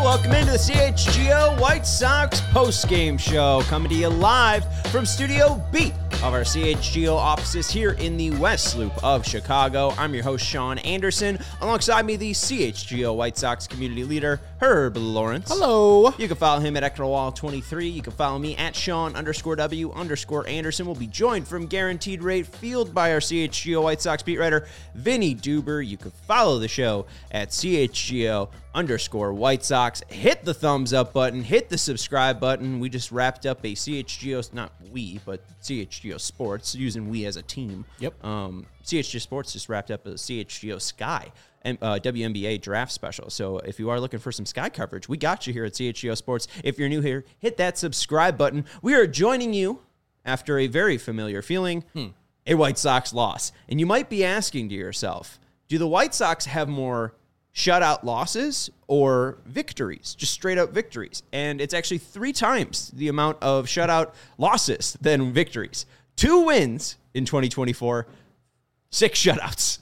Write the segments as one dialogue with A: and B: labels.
A: welcome into the CHGO White Sox postgame show, coming to you live from Studio B of our CHGO offices here in the West Loop of Chicago. I'm your host, Sean Anderson. Alongside me, the CHGO White Sox community leader, Herb Lawrence.
B: Hello.
A: You can follow him at EctorWall23. You can follow me at Sean_W_Anderson. We'll be joined from Guaranteed Rate Field by our CHGO White Sox beat writer, Vinny Duber. You can follow the show at CHGO_White Sox. Hit the thumbs up button. Hit the subscribe button. We just wrapped up a CHGO, not we, but CHGO Sports, using we as a team.
B: Yep.
A: CHGO Sports just wrapped up a CHGO Sky and WNBA draft special. So if you are looking for some Sky coverage, we got you here at CHGO Sports. If you're new here, hit that subscribe button. We are joining you after a very familiar feeling, a White Sox loss. And you might be asking to yourself, do the White Sox have more shutout losses or victories, just straight up victories? And it's actually 3 times the amount of shutout losses than victories. 2 wins in 2024, 6 shutouts.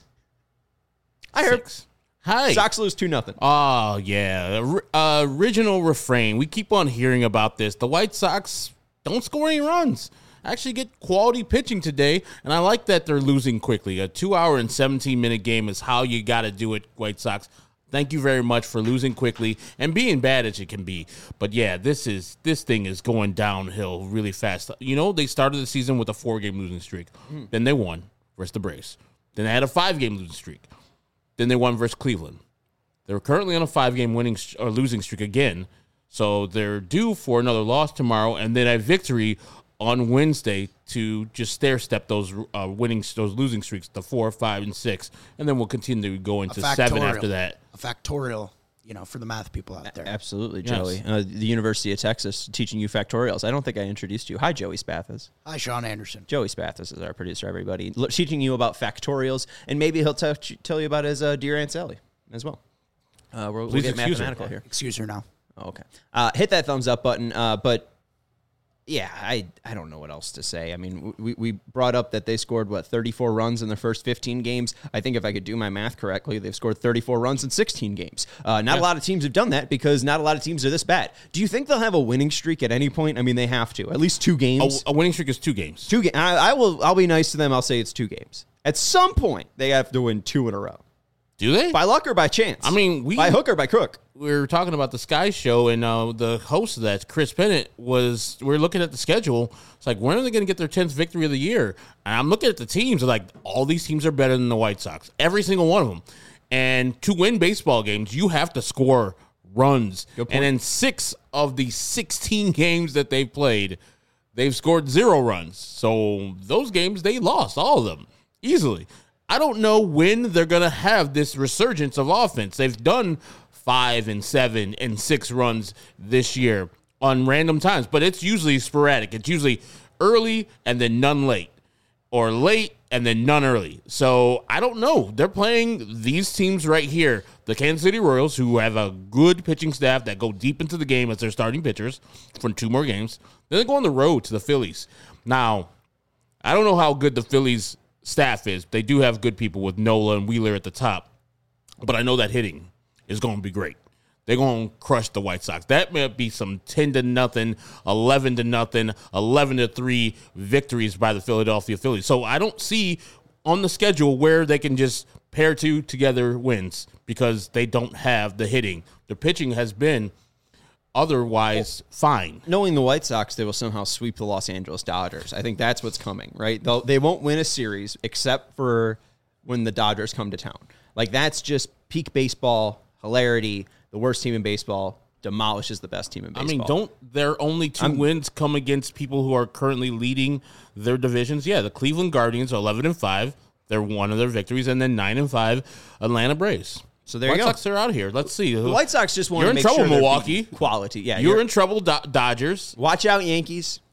A: I heard.
B: Hi.
A: Sox lose 2-0.
B: Oh, yeah. Original refrain. We keep on hearing about this. The White Sox don't score any runs. Actually get quality pitching today, and I like that they're losing quickly. A 2-hour and 17-minute game is how you got to do it, White Sox. Thank you very much for losing quickly and being bad as it can be. But yeah, this thing is going downhill really fast. You know, they started the season with a 4-game losing streak. Then they won versus the Braves. Then they had a 5-game losing streak. Then they won versus Cleveland. They're currently on a 5-game losing streak again. So they're due for another loss tomorrow and then a victory on Wednesday to just stair-step those losing streaks to 4, 5, and 6, and then we'll continue to go into 7 after that.
C: A factorial, for the math people out there.
A: Absolutely, Joey. Yes. The University of Texas teaching you factorials. I don't think I introduced you. Hi, Joey Spathis.
C: Hi, Sean Anderson.
A: Joey Spathis is our producer, everybody. Teaching you about factorials, and maybe he'll tell you about his dear Aunt Sally as well. We'll get mathematical here.
C: Excuse her now.
A: Oh, okay. Hit that thumbs up button, but... yeah, I don't know what else to say. I mean, we brought up that they scored, 34 runs in their first 15 games. I think if I could do my math correctly, they've scored 34 runs in 16 games. Not a lot of teams have done that because not a lot of teams are this bad. Do you think they'll have a winning streak at any point? I mean, they have to. At least 2 games.
B: A winning streak is 2 games.
A: 2 games. I'll be nice to them. I'll say it's 2 games. At some point, they have to win 2 in a row.
B: Do they?
A: By luck or by chance?
B: I mean,
A: by hook or by crook?
B: We were talking about the Sky Show, and the host of that, Chris Bennett, we're looking at the schedule. It's like, when are they going to get their 10th victory of the year? And I'm looking at the teams, like, all these teams are better than the White Sox. Every single one of them. And to win baseball games, you have to score runs. And in 6 of the 16 games that they've played, they've scored 0 runs. So those games, they lost, all of them, easily. I don't know when they're going to have this resurgence of offense. They've done 5 and 7 and 6 runs this year on random times, but it's usually sporadic. It's usually early and then none late, or late and then none early. So I don't know. They're playing these teams right here, the Kansas City Royals, who have a good pitching staff that go deep into the game as their starting pitchers for 2 more games. Then they go on the road to the Phillies. Now, I don't know how good the Phillies staff is. They do have good people with Nola and Wheeler at the top, but I know that hitting is going to be great. They're going to crush the White Sox. That may be some 10-0, 11-0, 11-3 victories by the Philadelphia Phillies. So I don't see on the schedule where they can just pair 2 together wins because they don't have the hitting. The pitching has been otherwise fine.
A: Knowing the White Sox, they will somehow sweep the Los Angeles Dodgers. I think that's what's coming, right? They won't win a series except for when the Dodgers come to town. Like, that's just peak baseball, hilarity. The worst team in baseball demolishes the best team in baseball.
B: I mean, don't their only 2 wins come against people who are currently leading their divisions? Yeah, the Cleveland Guardians are 11-5. They're one of their victories. And then 9-5, Atlanta Braves.
A: So there you go.
B: White Sox are out here. Let's see.
A: The White Sox just want to make
B: sure
A: you're in trouble,
B: Milwaukee.
A: Quality. Yeah,
B: you're in trouble, Dodgers.
A: Watch out, Yankees.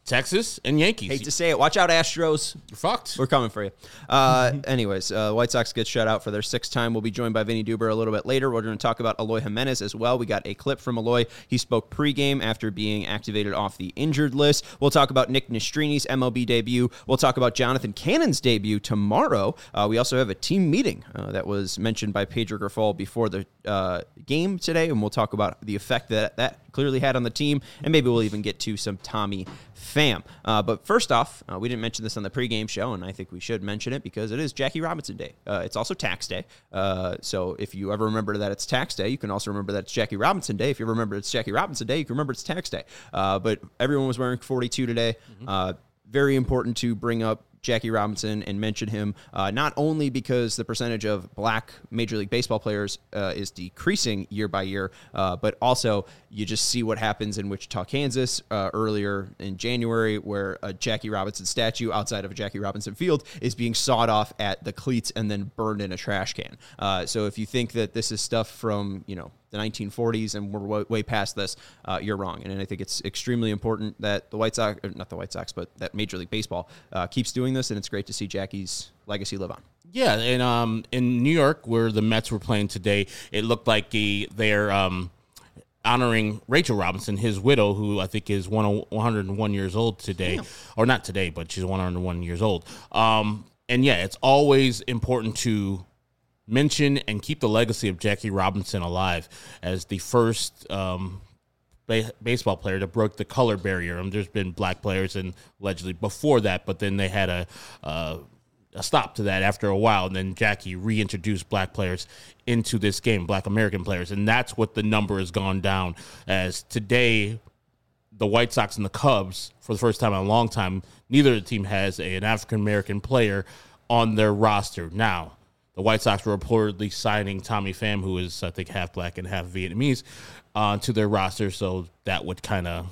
B: Texas and Yankees.
A: Hate to say it. Watch out, Astros.
B: You're fucked.
A: We're coming for you. Anyways, White Sox get shut out for their 6th time. We'll be joined by Vinny Duber a little bit later. We're going to talk about Eloy Jimenez as well. We got a clip from Eloy. He spoke pregame after being activated off the injured list. We'll talk about Nick Nestrini's MLB debut. We'll talk about Jonathan Cannon's debut tomorrow. We also have a team meeting that was mentioned by Pedro Grifol before the game today, and we'll talk about the effect that clearly had on the team, and maybe we'll even get to some Tommy Pham. But first off, we didn't mention this on the pregame show, and I think we should mention it because it is Jackie Robinson Day. It's also tax day. So if you ever remember that it's tax day, you can also remember that it's Jackie Robinson Day. If you remember it's Jackie Robinson Day, you can remember it's tax day. But everyone was wearing 42 today. Very important to bring up Jackie Robinson and mention him, not only because the percentage of black Major League Baseball players is decreasing year by year, but also you just see what happens in Wichita, Kansas earlier in January, where a Jackie Robinson statue outside of a Jackie Robinson field is being sawed off at the cleats and then burned in a trash can. So if you think that this is stuff from, the 1940s and we're way past this, you're wrong. And I think it's extremely important that the White Sox, or not the White Sox, but that Major League Baseball keeps doing this, and it's great to see Jackie's legacy live on. Yeah,
B: and in New York, where the Mets were playing today, it looked like they're honoring Rachel Robinson, his widow, who I think is 101 years old today. Damn. Or not today, but she's 101 years old. And yeah, it's always important to mention and keep the legacy of Jackie Robinson alive as the first baseball player to broke the color barrier. There's been black players and allegedly before that, but then they had a stop to that after a while, and then Jackie reintroduced black players into this game, black American players, and that's what the number has gone down. As today, the White Sox and the Cubs, for the first time in a long time, neither of the team has an African American player on their roster. Now, the White Sox were reportedly signing Tommy Pham, who is, I think, half black and half Vietnamese, to their roster, so that would kind of,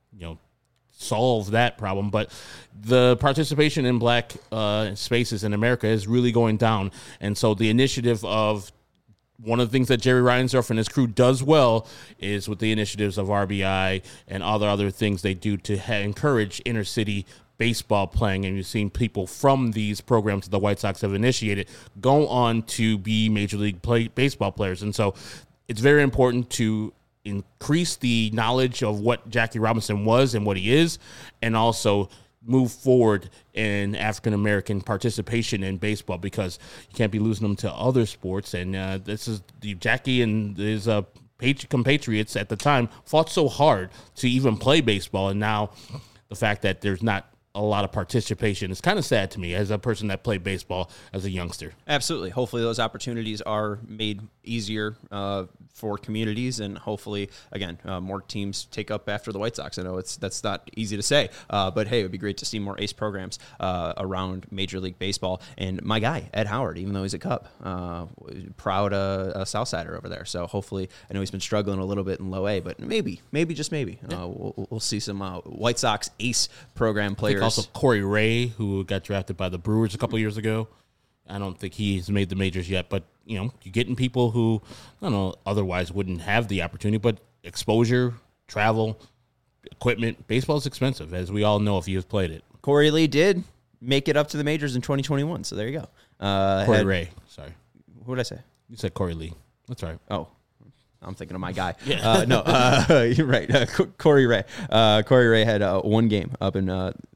B: solve that problem. But the participation in black spaces in America is really going down, and so the initiative of one of the things that Jerry Reinsdorf and his crew does well is with the initiatives of RBI and other things they do to encourage inner city baseball playing, and you've seen people from these programs that the White Sox have initiated go on to be Major League Baseball players. And so it's very important to increase the knowledge of what Jackie Robinson was and what he is, and also move forward in African-American participation in baseball, because you can't be losing them to other sports. And this is Jackie and his compatriots at the time fought so hard to even play baseball, and now the fact that there's not a lot of participation is kind of sad to me as a person that played baseball as a youngster.
A: Absolutely. Hopefully those opportunities are made easier for communities, and hopefully, again, more teams take up after the White Sox. I know that's not easy to say, but hey, it would be great to see more ACE programs around Major League Baseball. And my guy, Ed Howard, even though he's a Cub, proud Southsider over there. So hopefully, I know he's been struggling a little bit in low A, but maybe, just maybe, we'll see some White Sox ACE program players.
B: Also, Corey Ray, who got drafted by the Brewers a couple years ago. I don't think he's made the majors yet, but, you're getting people who, I don't know, otherwise wouldn't have the opportunity, but exposure, travel, equipment. Baseball is expensive, as we all know if you've played it.
A: Corey Lee did make it up to the majors in 2021, so there you go.
B: Corey Ray, sorry.
A: What did I say?
B: You said Corey Lee. That's all right.
A: Oh. I'm thinking of my guy.
B: Yeah.
A: You're right. Corey Ray. Corey Ray had one game up in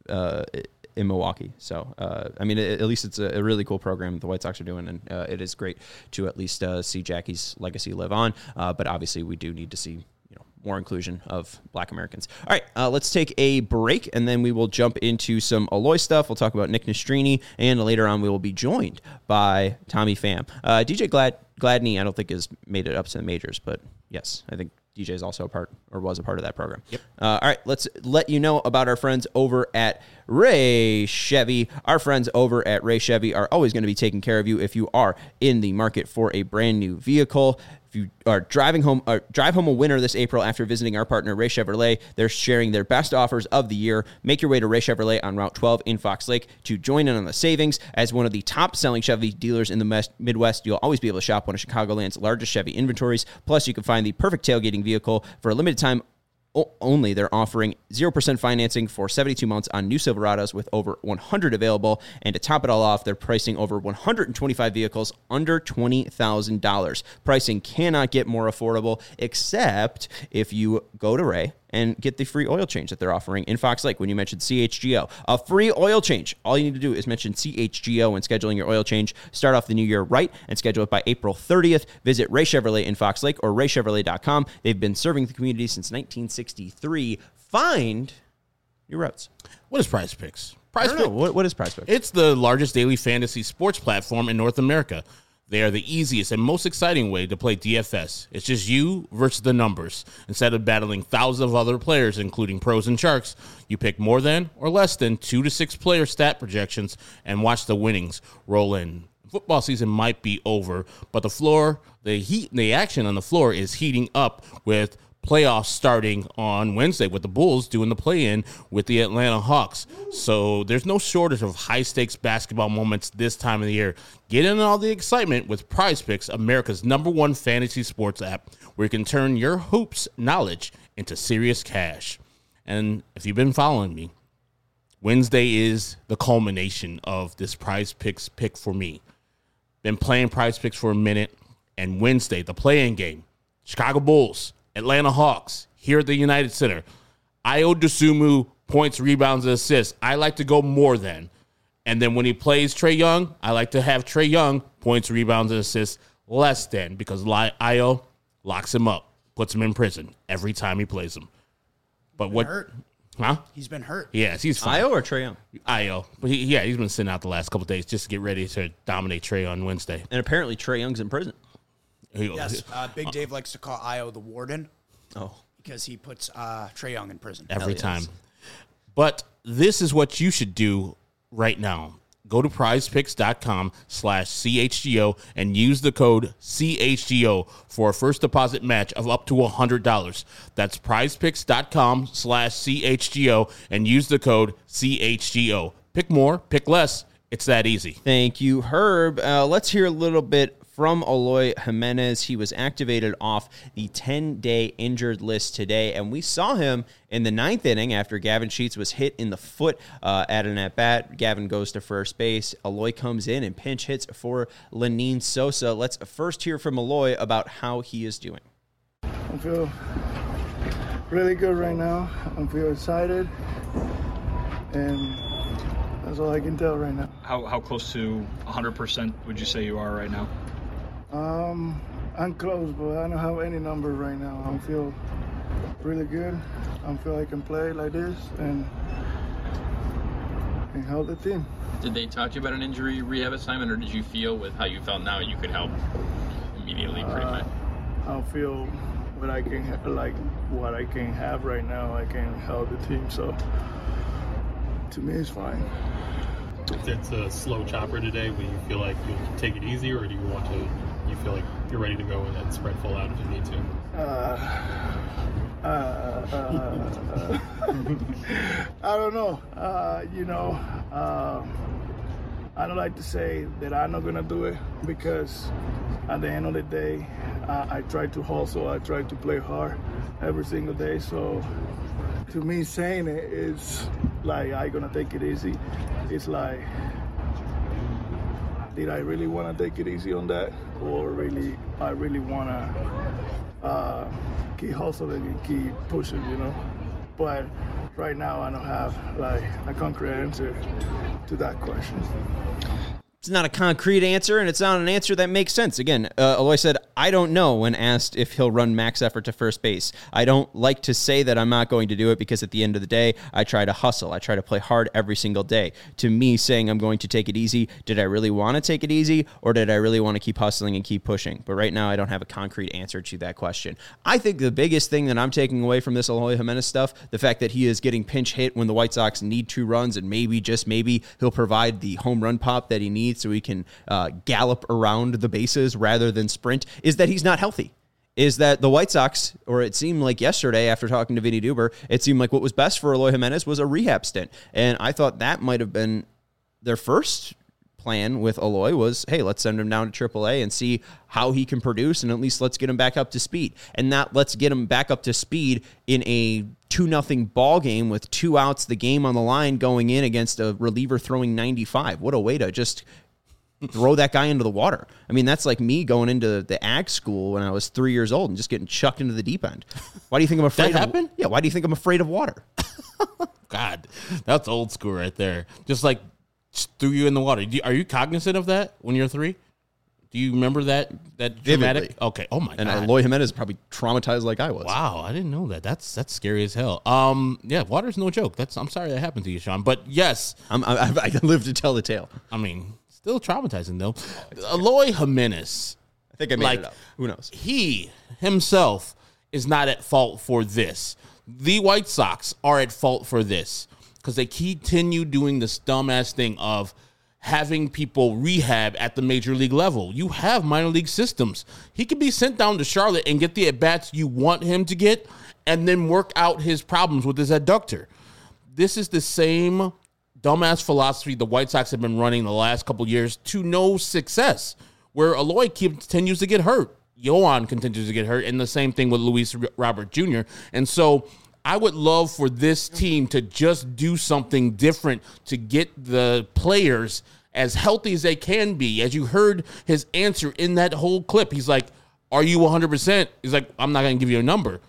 A: Milwaukee. So, at least it's a really cool program the White Sox are doing, and it is great to at least see Jackie's legacy live on. But obviously, we do need to see more inclusion of black Americans. All right, let's take a break, and then we will jump into some Eloy stuff. We'll talk about Nick Nastrini, and later on we will be joined by Tommy Pham. DJ Gladney, I don't think has made it up to the majors, but yes, I think DJ is also was a part of that program.
B: Yep.
A: All right, let's let you know about our friends over at Ray Chevy. Our friends over at Ray Chevy are always going to be taking care of you if you are in the market for a brand new vehicle. If you are drive home a winner this April after visiting our partner, Ray Chevrolet, they're sharing their best offers of the year. Make your way to Ray Chevrolet on Route 12 in Fox Lake to join in on the savings. As one of the top-selling Chevy dealers in the Midwest, you'll always be able to shop one of Chicagoland's largest Chevy inventories. Plus, you can find the perfect tailgating vehicle for a limited time only, they're offering 0% financing for 72 months on new Silverados with over 100 available. And to top it all off, they're pricing over 125 vehicles under $20,000. Pricing cannot get more affordable, except if you go to Ray and get the free oil change that they're offering in Fox Lake when you mentioned CHGO. A free oil change. All you need to do is mention CHGO when scheduling your oil change. Start off the new year right and schedule it by April 30th. Visit Ray Chevrolet in Fox Lake or raychevrolet.com. They've been serving the community since 1963. Find your routes.
B: What is Prize Picks?
A: What is Prize Picks?
B: It's the largest daily fantasy sports platform in North America. They are the easiest and most exciting way to play DFS. It's just you versus the numbers. Instead of battling thousands of other players, including pros and sharks, you pick more than or less than 2 to 6 player stat projections and watch the winnings roll in. Football season might be over, but the action on the floor is heating up with playoffs starting on Wednesday with the Bulls doing the play-in with the Atlanta Hawks. So there's no shortage of high-stakes basketball moments this time of the year. Get in all the excitement with Prize Picks, America's #1 fantasy sports app, where you can turn your hoops knowledge into serious cash. And if you've been following me, Wednesday is the culmination of this Prize Picks pick for me. Been playing Prize Picks for a minute, and Wednesday, the play-in game, Chicago Bulls, Atlanta Hawks, here at the United Center. Ayo Dosunmu, points, rebounds, and assists. I like to go more than. And then when he plays Trae Young, I like to have Trae Young, points, rebounds, and assists, less than, because Ayo locks him up, puts him in prison every time he plays him. But what?
C: Hurt.
B: Huh?
C: He's been hurt.
B: Yes, he's fine.
A: Ayo or Trae Young?
B: Ayo. But he's been sitting out the last couple of days just to get ready to dominate Trae on Wednesday.
A: And apparently Trae Young's in prison.
C: Yes, Big Dave likes to call Ayo the warden.
A: Oh.
C: Because he puts Trae Young in prison.
B: Every time. But this is what you should do right now. Go to prizepicks.com/CHGO and use the code CHGO for a first deposit match of up to $100. That's prizepicks.com/CHGO and use the code CHGO. Pick more, pick less. It's that easy.
A: Thank you, Herb. Let's hear a little bit from Eloy Jimenez. He was activated off the 10-day injured list today, and we saw him in the 9th inning after Gavin Sheets was hit in the foot at an at-bat. Gavin goes to first base. Eloy comes in and pinch hits for Lenyn Sosa. Let's first hear from Eloy about how he is doing.
D: I feel really good right now. I feel excited, and that's all I can tell right now.
E: How close to 100% would you say you are right now?
D: I'm close, but I don't have any number right now. I feel really good. I feel I can play like this and help the team.
F: Did they talk to you about an injury rehab assignment, or did you feel with how you felt now you could help immediately pretty much?
D: I feel what I can have right now. I can help the team, so to me it's fine.
G: If it's a slow chopper today, will you feel like you'll take it easy, or do you feel like you're ready to go and spread full out if you need to?
D: I don't know. I don't like to say that I'm not gonna do it, because at the end of the day, I try to hustle. I try to play hard every single day. So to me, saying it is like I'm gonna take it easy. It's like, did I really want to take it easy on that, or I really want to keep hustling and keep pushing, But right now, I don't have like a concrete answer to that question.
A: It's not a concrete answer, and it's not an answer that makes sense. Again, Eloy said, I don't know when asked if he'll run max effort to first base. I don't like to say that I'm not going to do it, because at the end of the day, I try to hustle. I try to play hard every single day. To me, saying I'm going to take it easy, did I really want to take it easy, or did I really want to keep hustling and keep pushing? But right now, I don't have a concrete answer to that question. I think the biggest thing that I'm taking away from this Eloy Jimenez stuff, the fact that he is getting pinch hit when the White Sox need 2 runs, and maybe, just maybe, he'll provide the home run pop that he needs so he can gallop around the bases rather than sprint, is that he's not healthy. Is that the White Sox, or it seemed like yesterday after talking to Vinny Duber, it seemed like what was best for Eloy Jimenez was a rehab stint. And I thought that might have been their first plan with Eloy was, hey, let's send him down to AAA and see how he can produce, and at least let's get him back up to speed. And not let's get him back up to speed in a 2-0 ball game with 2 outs, the game on the line, going in against a reliever throwing 95. What a way to just throw that guy into the water. I mean, that's like me going into the ag school when I was 3 years old and just getting chucked into the deep end. Why do you think I'm afraid
B: That happened?
A: Yeah, why do you think I'm afraid of water?
B: God, that's old school right there. Just like threw you in the water. Are you cognizant of that when you're 3? Do you remember that dramatic?
A: Vividly.
B: Okay. Oh my
A: And
B: God.
A: Eloy Jimenez is probably traumatized like I was.
B: Wow, I didn't know that. That's scary as hell. Yeah, water's no joke. I'm sorry that happened to you, Sean. But yes,
A: I live to tell the tale.
B: I mean, still traumatizing though. Eloy Jimenez,
A: I think I made it up. Who knows?
B: he himself is not at fault for this. The White Sox are at fault for this because they continue doing this dumbass thing of having people rehab at the major league level. You have minor league systems. He could be sent down to Charlotte and get the at-bats you want him to get and then work out his problems with his adductor. This is the same dumbass philosophy the White Sox have been running the last couple years to no success, where Eloy continues to get hurt. Yohan continues to get hurt, and the same thing with Luis Robert Jr. And so I would love for this team to just do something different to get the players as healthy as they can be. As you heard his answer in that whole clip, he's like, are you 100%? He's like, I'm not going to give you a number.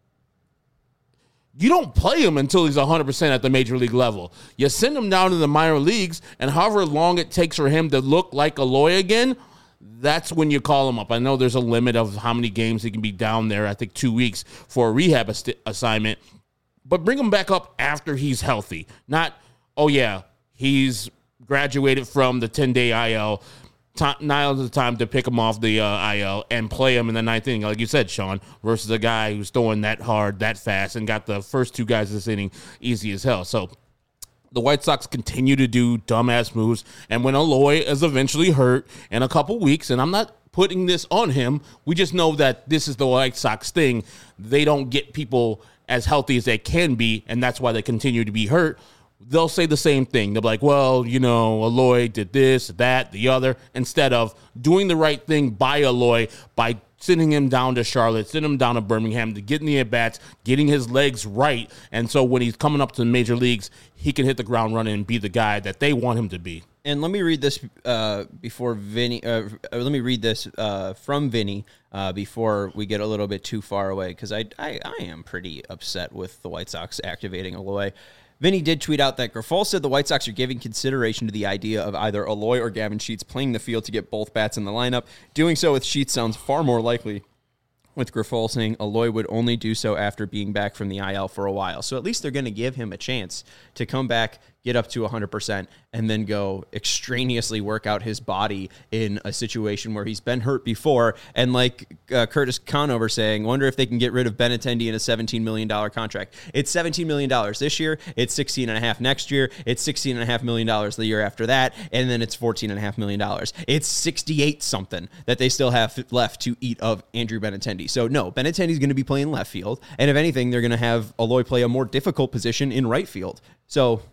B: You don't play him until he's 100% at the major league level. You send him down to the minor leagues, and however long it takes for him to look like Eloy again, that's when you call him up. I know there's a limit of how many games he can be down there. I think 2 weeks for a rehab assignment. But bring him back up after he's healthy. Not, oh, yeah, he's graduated from the 10-day IL. Now is the time to pick him off the IL and play him in the 9th inning, like you said, Sean, versus a guy who's throwing that hard, that fast, and got the first 2 guys this inning easy as hell. So the White Sox continue to do dumbass moves, and when Eloy is eventually hurt in a couple weeks, and I'm not putting this on him, we just know that this is the White Sox thing. They don't get people as healthy as they can be, and that's why they continue to be hurt. They'll say the same thing. They'll be like, well, you know, Eloy did this, that, the other, instead of doing the right thing by Eloy by sending him down to Charlotte, sending him down to Birmingham, to getting the at-bats, getting his legs right. And so when he's coming up to the major leagues, he can hit the ground running and be the guy that they want him to be.
A: And let me read this before Vinny. Let me read this from Vinny before we get a little bit too far away, because I am pretty upset with the White Sox activating Eloy. Vinny did tweet out that Grifol said the White Sox are giving consideration to the idea of either Eloy or Gavin Sheets playing the field to get both bats in the lineup. Doing so with Sheets sounds far more likely, with Grifol saying Eloy would only do so after being back from the IL for a while. So at least they're going to give him a chance to come back, get up to 100%, and then go extraneously work out his body in a situation where he's been hurt before. And like Curtis Conover saying, wonder if they can get rid of Benintendi in a $17 million contract. It's $17 million this year. It's $16.5 next year. It's $16.5 million the year after that. And then it's $14.5 million. It's 68 something that they still have left to eat of Andrew Benintendi. So no, Benintendi's going to be playing left field. And if anything, they're going to have Eloy play a more difficult position in right field. So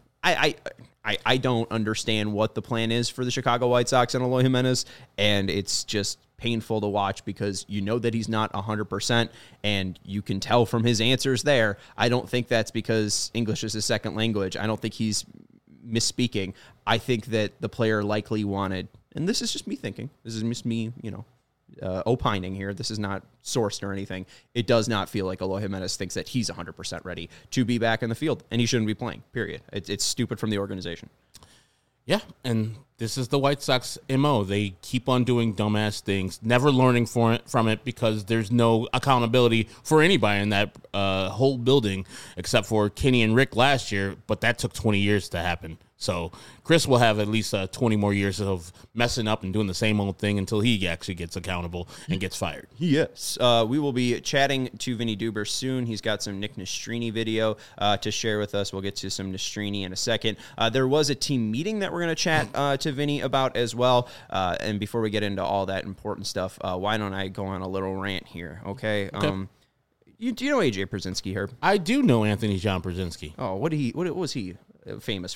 A: I don't understand what the plan is for the Chicago White Sox and Eloy Jimenez, and it's just painful to watch because you know that he's not 100%, and you can tell from his answers there. I don't think that's because English is his second language. I don't think he's misspeaking. I think that the player likely wanted, and this is just me thinking, this is just me, opining here. This is not sourced or anything. It does not feel like Eloy Jimenez thinks that he's 100% ready to be back in the field, and he shouldn't be playing, period. It's stupid from the organization.
B: Yeah, and this is the White Sox MO. They keep on doing dumbass things, never learning from it because there's no accountability for anybody in that whole building except for Kenny and Rick last year, but that took 20 years to happen. So Chris will have at least 20 more years of messing up and doing the same old thing until he actually gets accountable and gets fired.
A: Yes. We will be chatting to Vinny Duber soon. He's got some Nick Nastrini video to share with us. We'll get to some Nastrini in a second. There was a team meeting that we're going to chat to Vinny about as well. And before we get into all that important stuff, why don't I go on a little rant here, okay? Do you know AJ Pierzynski here?
B: I do know Anthony John Pierzynski.
A: Oh, what was he famous for?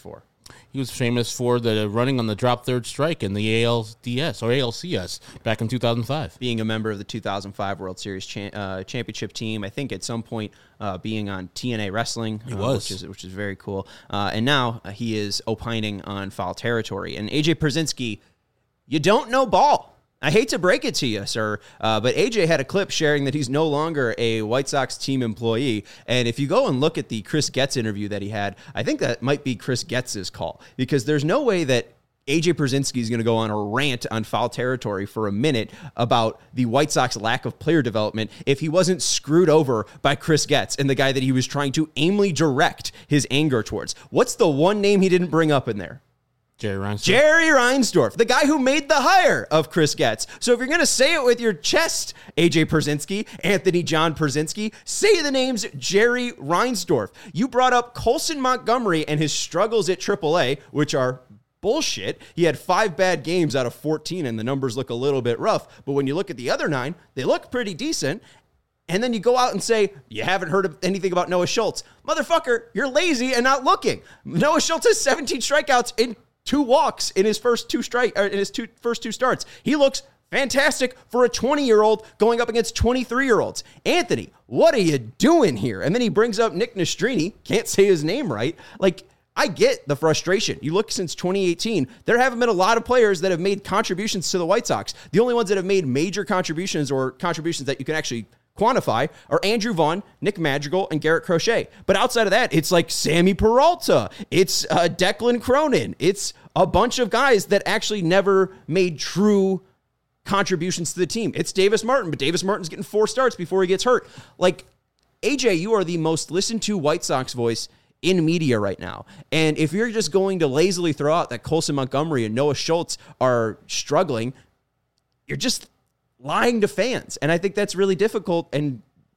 B: He was famous for the running on the drop third strike in the ALDS or ALCS back in 2005.
A: Being a member of the 2005 World Series championship team, I think at some point being on TNA Wrestling, which is very cool. And now he is opining on Foul Territory. And AJ Pierzynski, you don't know ball. I hate to break it to you, sir, but AJ had a clip sharing that he's no longer a White Sox team employee. And if you go and look at the Chris Getz interview that he had, I think that might be Chris Getz's call, because there's no way that AJ Pierzynski is going to go on a rant on Foul Territory for a minute about the White Sox lack of player development if he wasn't screwed over by Chris Getz and the guy that he was trying to aimlessly direct his anger towards. What's the one name he didn't bring up in there?
B: Jerry
A: Reinsdorf, the guy who made the hire of Chris Getz. So if you're going to say it with your chest, AJ Pierzynski, Anthony John Pierzynski, say the names Jerry Reinsdorf. You brought up Colson Montgomery and his struggles at AAA, which are bullshit. He had 5 bad games out of 14, and the numbers look a little bit rough. But when you look at the other 9, they look pretty decent. And then you go out and say, you haven't heard of anything about Noah Schultz. Motherfucker, you're lazy and not looking. Noah Schultz has 17 strikeouts in 2 walks in his first 2 first 2 starts. He looks fantastic for a 20-year-old going up against 23-year-olds. Anthony, what are you doing here? And then he brings up Nick Nastrini. Can't say his name right. Like, I get the frustration. You look since 2018, there haven't been a lot of players that have made contributions to the White Sox. The only ones that have made major contributions or contributions that you can actually quantify are Andrew Vaughn, Nick Madrigal, and Garrett Crochet. But outside of that, it's like Sammy Peralta. It's Declan Cronin. It's a bunch of guys that actually never made true contributions to the team. It's Davis Martin, but Davis Martin's getting 4 starts before he gets hurt. Like, AJ, you are the most listened to White Sox voice in media right now. And if you're just going to lazily throw out that Colson Montgomery and Noah Schultz are struggling, you're just lying to fans. And I think that's really difficult and,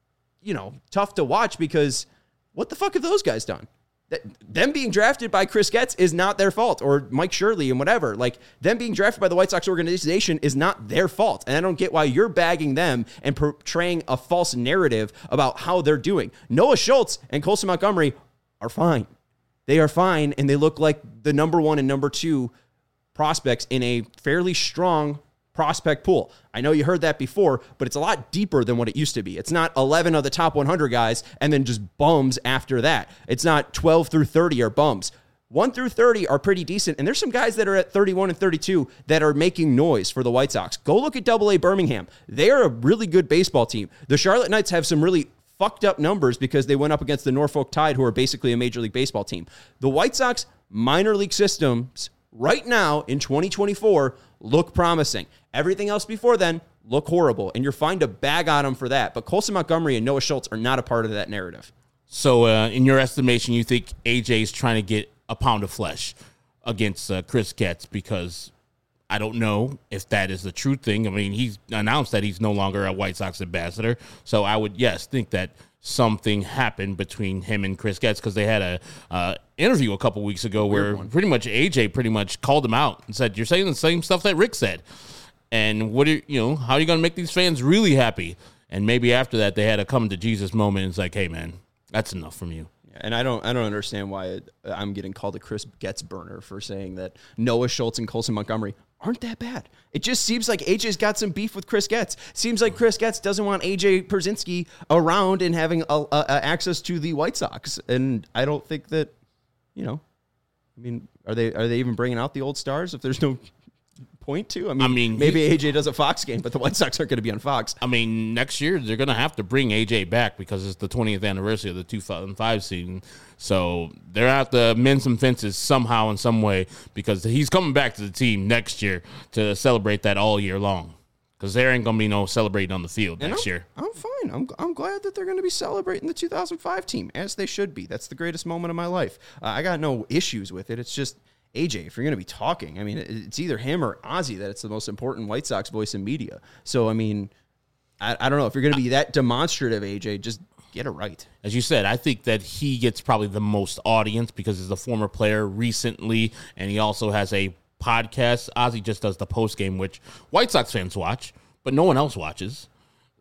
A: tough to watch, because what the fuck have those guys done? Them being drafted by Chris Getz is not their fault, or Mike Shirley and whatever. Like, them being drafted by the White Sox organization is not their fault. And I don't get why you're bagging them and portraying a false narrative about how they're doing. Noah Schultz and Colson Montgomery are fine. They are fine, and they look like the number 1 and number 2 prospects in a fairly strong prospect pool. I know you heard that before, but it's a lot deeper than what it used to be. It's not 11 of the top 100 guys and then just bums after that. It's not 12 through 30 are bums. 1 through 30 are pretty decent, and there's some guys that are at 31 and 32 that are making noise for the White Sox. Go look at AA Birmingham. They are a really good baseball team. The Charlotte Knights have some really fucked up numbers because they went up against the Norfolk Tide, who are basically a Major League Baseball team. The White Sox minor league systems right now in 2024 look promising. Everything else before then look horrible, and you're fine to bag on them for that. But Colson Montgomery and Noah Schultz are not a part of that narrative.
B: So in your estimation, you think AJ is trying to get a pound of flesh against Chris Getz? Because I don't know if that is the true thing. I mean, he's announced that he's no longer a White Sox ambassador. So I would, think that something happened between him and Chris Getz, because they had a interview a couple weeks ago where pretty much AJ called him out and said, "You're saying the same stuff that Rick said. And how are you going to make these fans really happy?" And maybe after that, they had a come to Jesus moment. And it's like, "Hey, man, that's enough from you."
A: And I don't understand why I'm getting called a Chris Getz burner for saying that Noah Schultz and Colson Montgomery aren't that bad. It just seems like AJ's got some beef with Chris Getz. Seems like Chris Getz doesn't want AJ Pierzynski around and having access to the White Sox. And I don't think that, are they even bringing out the old stars if there's no point to? I mean maybe AJ does a Fox game, but the White Sox aren't going to be on Fox.
B: I mean, next year they're going to have to bring AJ back because it's the 20th anniversary of the 2005 season. So they're going to have to mend some fences somehow in some way, because he's coming back to the team next year to celebrate that all year long. Because there ain't going to be no celebrating on the field next year.
A: I'm fine. I'm glad that they're going to be celebrating the 2005 team, as they should be. That's the greatest moment of my life. I got no issues with it. It's just, AJ, if you're going to be talking, I mean, it's either him or Ozzy that it's the most important White Sox voice in media. So, I mean, I don't know. If you're going to be that demonstrative, AJ, just get it right.
B: As you said, I think that he gets probably the most audience because he's a former player recently, and he also has a podcast. Ozzy just does the post game, which White Sox fans watch, but no one else watches.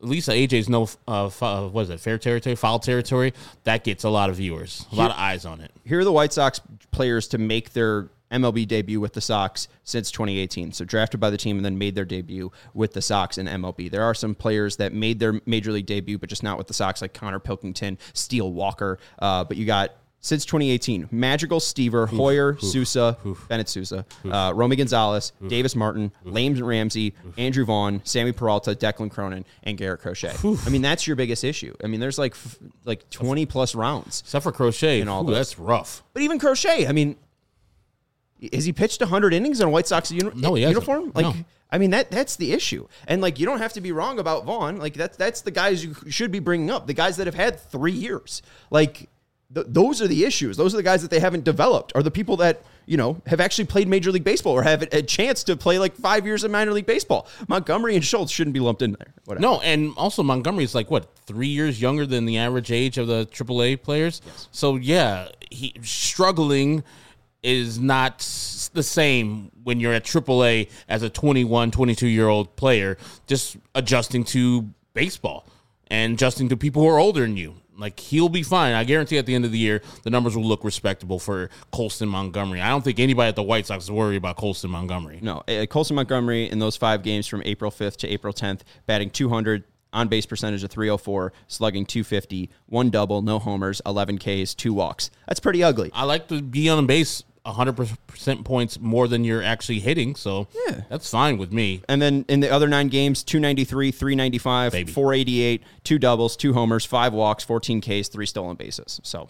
B: at least AJ's no, what is it, fair territory, foul territory, that gets a lot of viewers, a lot of eyes on it.
A: Here are the White Sox players to make their MLB debut with the Sox since 2018. So drafted by the team and then made their debut with the Sox in MLB. There are some players that made their major league debut, but just not with the Sox, like Connor Pilkington, Steele Walker. But you got, since 2018, Madrigal, Stever, Hoyer, Sousa, Bennett Sousa, Romy Gonzalez, Davis Martin, Lane Ramsey, Andrew Vaughn, Sammy Peralta, Declan Cronin, and Garrett Crochet. I mean, that's your biggest issue. I mean, there's like 20 plus rounds.
B: Except for Crochet.
A: In all
B: That's rough.
A: But even Crochet, I mean, has he pitched 100 innings in a White Sox uniform? Like, no. I mean, that's the issue. And, like, you don't have to be wrong about Vaughn. Like, that's the guys you should be bringing up, the guys that have had 3 years. Like, those are the issues. Those are the guys that they haven't developed, are the people that, you know, have actually played Major League Baseball or have a chance to play, like, 5 years of minor league baseball. Montgomery and Schultz shouldn't be lumped in there. Whatever.
B: No, and also Montgomery is, like, 3 years younger than the average age of the AAA players? Yes. So, yeah, he struggling is not the same when you're at AAA as a 21, 22-year-old player, just adjusting to baseball and adjusting to people who are older than you. Like, he'll be fine. I guarantee at the end of the year, the numbers will look respectable for Colston Montgomery. I don't think anybody at the White Sox is worried about Colston Montgomery.
A: No, Colston Montgomery in those 5 games from April 5th to April 10th, batting .200, on-base percentage of .304, slugging .250, 1 double, no homers, 11 Ks, 2 walks. That's pretty ugly.
B: I like to be on base 100% points more than you're actually hitting, so yeah, that's fine with me.
A: And then in the other 9 games, 293, 395, 488, 2 doubles, 2 homers, 5 walks, 14 Ks, 3 stolen bases. So,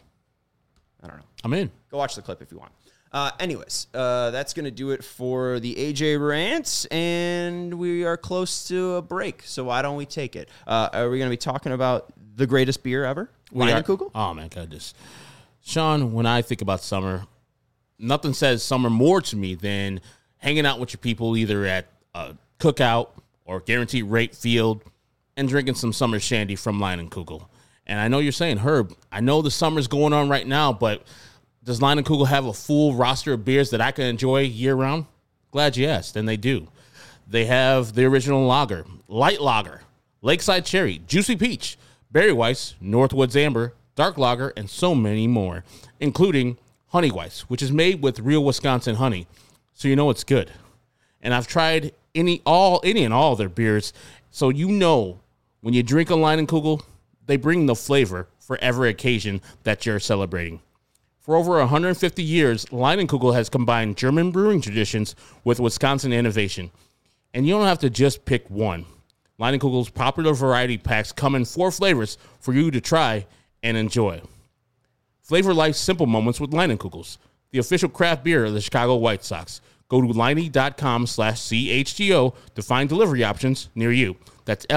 A: I don't know.
B: I'm in.
A: Go watch the clip if you want. Anyways, that's going to do it for the AJ rants, and we are close to a break, so why don't we take it? Are we going to be talking about the greatest beer ever? Leinenkugel?
B: Oh, my goodness. Sean, when I think about summer, nothing says summer more to me than hanging out with your people either at a cookout or guaranteed rate field and drinking some summer shandy from Leinenkugel. And I know you're saying, Herb, I know the summer's going on right now, but does Leinenkugel have a full roster of beers that I can enjoy year-round? Glad you asked, and they do. They have the original lager, light lager, Lakeside Cherry, Juicy Peach, Berry Weiss, Northwoods Amber, Dark Lager, and so many more, including Honey Weiss, which is made with real Wisconsin honey, so you know it's good. And I've tried any and all their beers, so you know when you drink a Leinenkugel, they bring the flavor for every occasion that you're celebrating. For over 150 years, Leinenkugel has combined German brewing traditions with Wisconsin innovation. And you don't have to just pick one. Leinenkugel's popular variety packs come in 4 flavors for you to try and enjoy. Flavor life's simple moments with Leinenkugels, the official craft beer of the Chicago White Sox. Go to Leine.com/CHGO to find delivery options near you. That's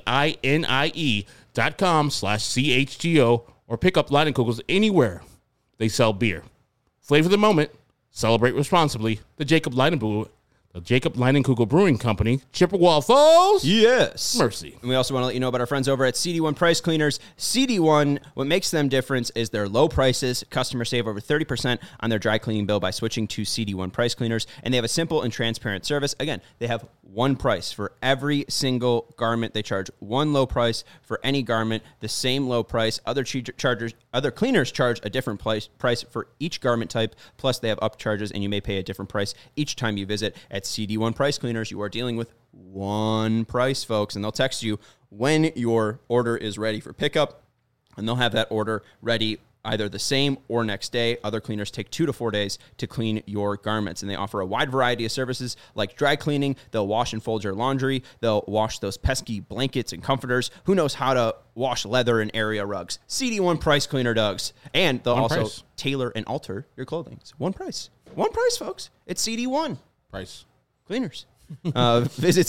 B: LEINIE.com/CHGO or pick up Leinenkugels anywhere they sell beer. Flavor the moment. Celebrate responsibly. The Jacob Leinenkugel Brewing Company, Chippewa Falls.
A: Yes.
B: Mercy.
A: And we also want to let you know about our friends over at CD1 Price Cleaners. CD1, what makes them different is their low prices. Customers save over 30% on their dry cleaning bill by switching to CD1 Price Cleaners. And they have a simple and transparent service. Again, they have one price for every single garment. They charge one low price for any garment, the same low price. Other cleaners charge a different price for each garment type. Plus, they have upcharges, and you may pay a different price each time you visit. At CD1 Price Cleaners, you are dealing with one price, folks, and they'll text you when your order is ready for pickup, and they'll have that order ready either the same or next day. Other cleaners take 2 to 4 days to clean your garments, and they offer a wide variety of services like dry cleaning. They'll wash and fold your laundry. They'll wash those pesky blankets and comforters. Who knows how to wash leather and area rugs? CD1 Price Cleaner does. And they'll also tailor and alter your clothing. It's one price. One price, folks. It's CD1.
B: Price.
A: Cleaners. Visit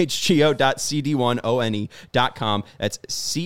A: chgo.cd1one.com. That's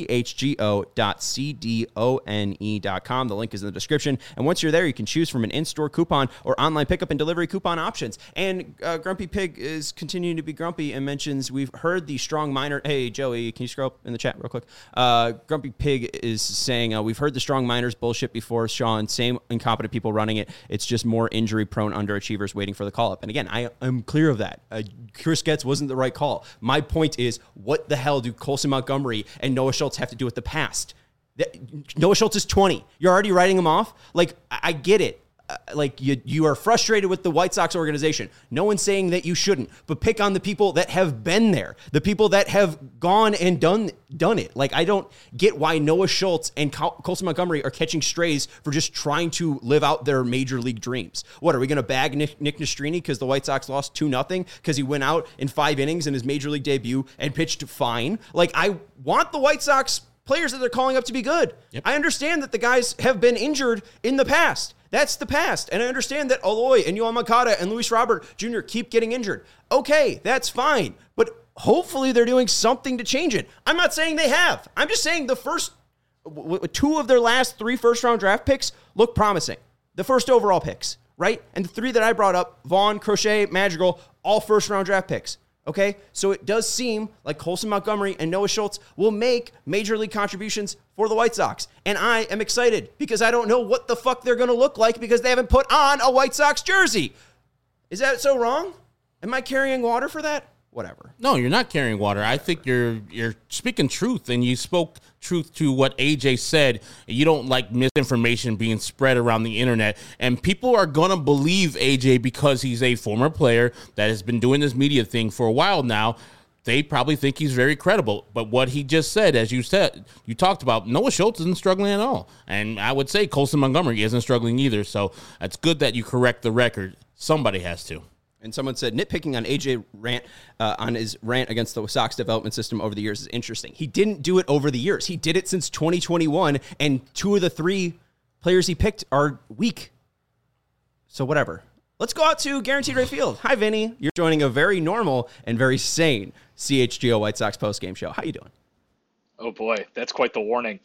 A: chgo.cdone.com. The link is in the description. And once you're there, you can choose from an in-store coupon or online pickup and delivery coupon options. And Grumpy Pig is continuing to be grumpy and mentions we've heard the strong minor. Hey, Joey, can you scroll up in the chat real quick? Grumpy Pig is saying we've heard the strong minors bullshit before, Sean. Same incompetent people running it. It's just more injury-prone underachievers waiting for the call-up. And again, I am clear of that. Chris Getz wasn't the right call. My point is, what the hell do Colson Montgomery and Noah Schultz have to do with the past? Noah Schultz is 20. You're already writing him off? Like, I get it. Like, you are frustrated with the White Sox organization. No one's saying that you shouldn't, but pick on the people that have been there, the people that have gone and done it. Like, I don't get why Noah Schultz and Colson Montgomery are catching strays for just trying to live out their major league dreams. What, are we going to bag Nick Nastrini because the White Sox lost 2-0 because he went out in 5 innings in his major league debut and pitched fine? Like, I want the White Sox players that they're calling up to be good. Yep. I understand that the guys have been injured in the past. That's the past. And I understand that Eloy and Yoan Moncada and Luis Robert Jr. keep getting injured. Okay, that's fine. But hopefully they're doing something to change it. I'm not saying they have. I'm just saying the first 2 of their last 3 first-round draft picks look promising. The first overall picks, right? And the 3 that I brought up, Vaughn, Crochet, Madrigal, all first-round draft picks. Okay, so it does seem like Colson Montgomery and Noah Schultz will make major league contributions for the White Sox. And I am excited because I don't know what the fuck they're going to look like because they haven't put on a White Sox jersey. Is that so wrong? Am I carrying water for that? Whatever.
B: No, you're not carrying water. I think you're speaking truth, and you spoke truth to what AJ said. You don't like misinformation being spread around the internet, and people are going to believe AJ because he's a former player that has been doing this media thing for a while now. They probably think he's very credible. But what he just said, as you said, you talked about, Noah Schultz isn't struggling at all. And I would say Colson Montgomery isn't struggling either. So it's good that you correct the record. Somebody has to.
A: And someone said nitpicking on AJ rant on his rant against the Sox development system over the years is interesting. He didn't do it over the years. He did it since 2021, and 2 of the 3 players he picked are weak. So whatever. Let's go out to Guaranteed Rate Field. Hi, Vinny. You're joining a very normal and very sane CHGO White Sox postgame show. How you doing?
E: Oh, boy. That's quite the warning.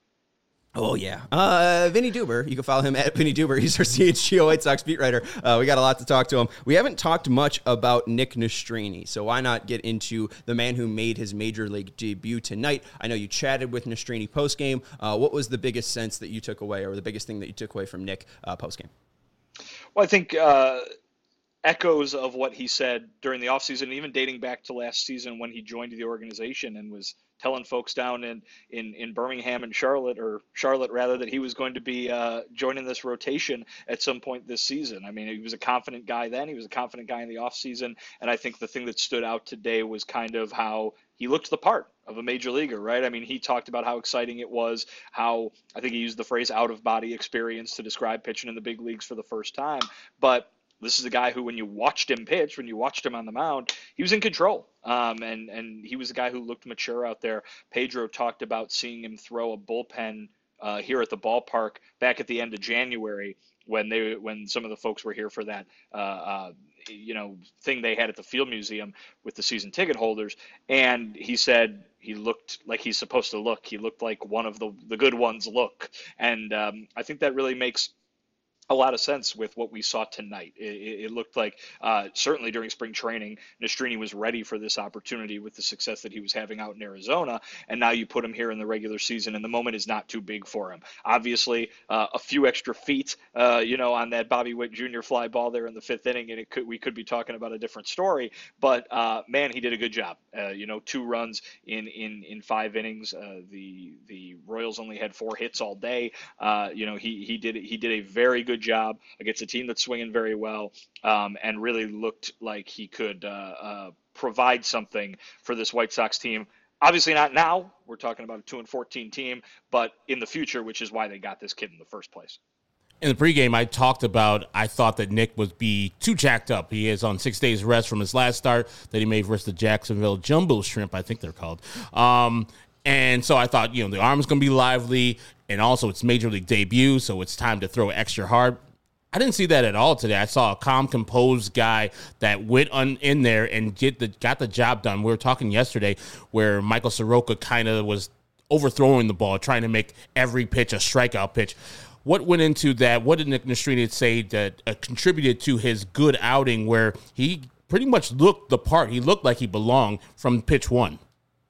A: Oh, yeah. Vinny Duber. You can follow him at Vinny Duber. He's our CHGO White Sox beat writer. We got a lot to talk to him. We haven't talked much about Nick Nastrini, so why not get into the man who made his major league debut tonight? I know you chatted with Nastrini postgame. What was the biggest sense that you took away, or the biggest thing that you took away from Nick postgame?
E: Well, I think echoes of what he said during the offseason, even dating back to last season when he joined the organization and was telling folks down in Birmingham and Charlotte rather, that he was going to be joining this rotation at some point this season. I mean, he was a confident guy then. He was a confident guy in the offseason. And I think the thing that stood out today was kind of how he looked the part of a major leaguer, right? I mean, he talked about how exciting it was, how I think he used the phrase out-of-body experience to describe pitching in the big leagues for the first time. But this is a guy who, when you watched him pitch, when you watched him on the mound, he was in control. And he was a guy who looked mature out there. Pedro talked about seeing him throw a bullpen here at the ballpark back at the end of January when some of the folks were here for that thing they had at the Field Museum with the season ticket holders. And he said he looked like he's supposed to look. He looked like one of the good ones look. And I think that really makes a lot of sense with what we saw tonight. It looked like certainly during spring training, Nastrini was ready for this opportunity with the success that he was having out in Arizona. And now you put him here in the regular season, and the moment is not too big for him. Obviously, a few extra feet, on that Bobby Witt Jr. fly ball there in the 5th inning, and we could be talking about a different story. But man, he did a good job. 2 runs in 5 innings. The Royals only had 4 hits all day. He did a very good job against a team that's swinging very well, and really looked like he could provide something for this White Sox team. Obviously not now. We're talking about a 2-14 team, but in the future, which is why they got this kid in the first place.
B: In the pregame, I thought that Nick would be too jacked up. He is on 6 days rest from his last start that he made versus the Jacksonville Jumbo Shrimp, I think they're called. And so I thought, the arm's going to be lively, and also it's major league debut, so it's time to throw extra hard. I didn't see that at all today. I saw a calm, composed guy that went in there and got the job done. We were talking yesterday where Michael Soroka kind of was overthrowing the ball, trying to make every pitch a strikeout pitch. What went into that? What did Nick Nastrini say that contributed to his good outing where he pretty much looked the part? He looked like he belonged from pitch 1.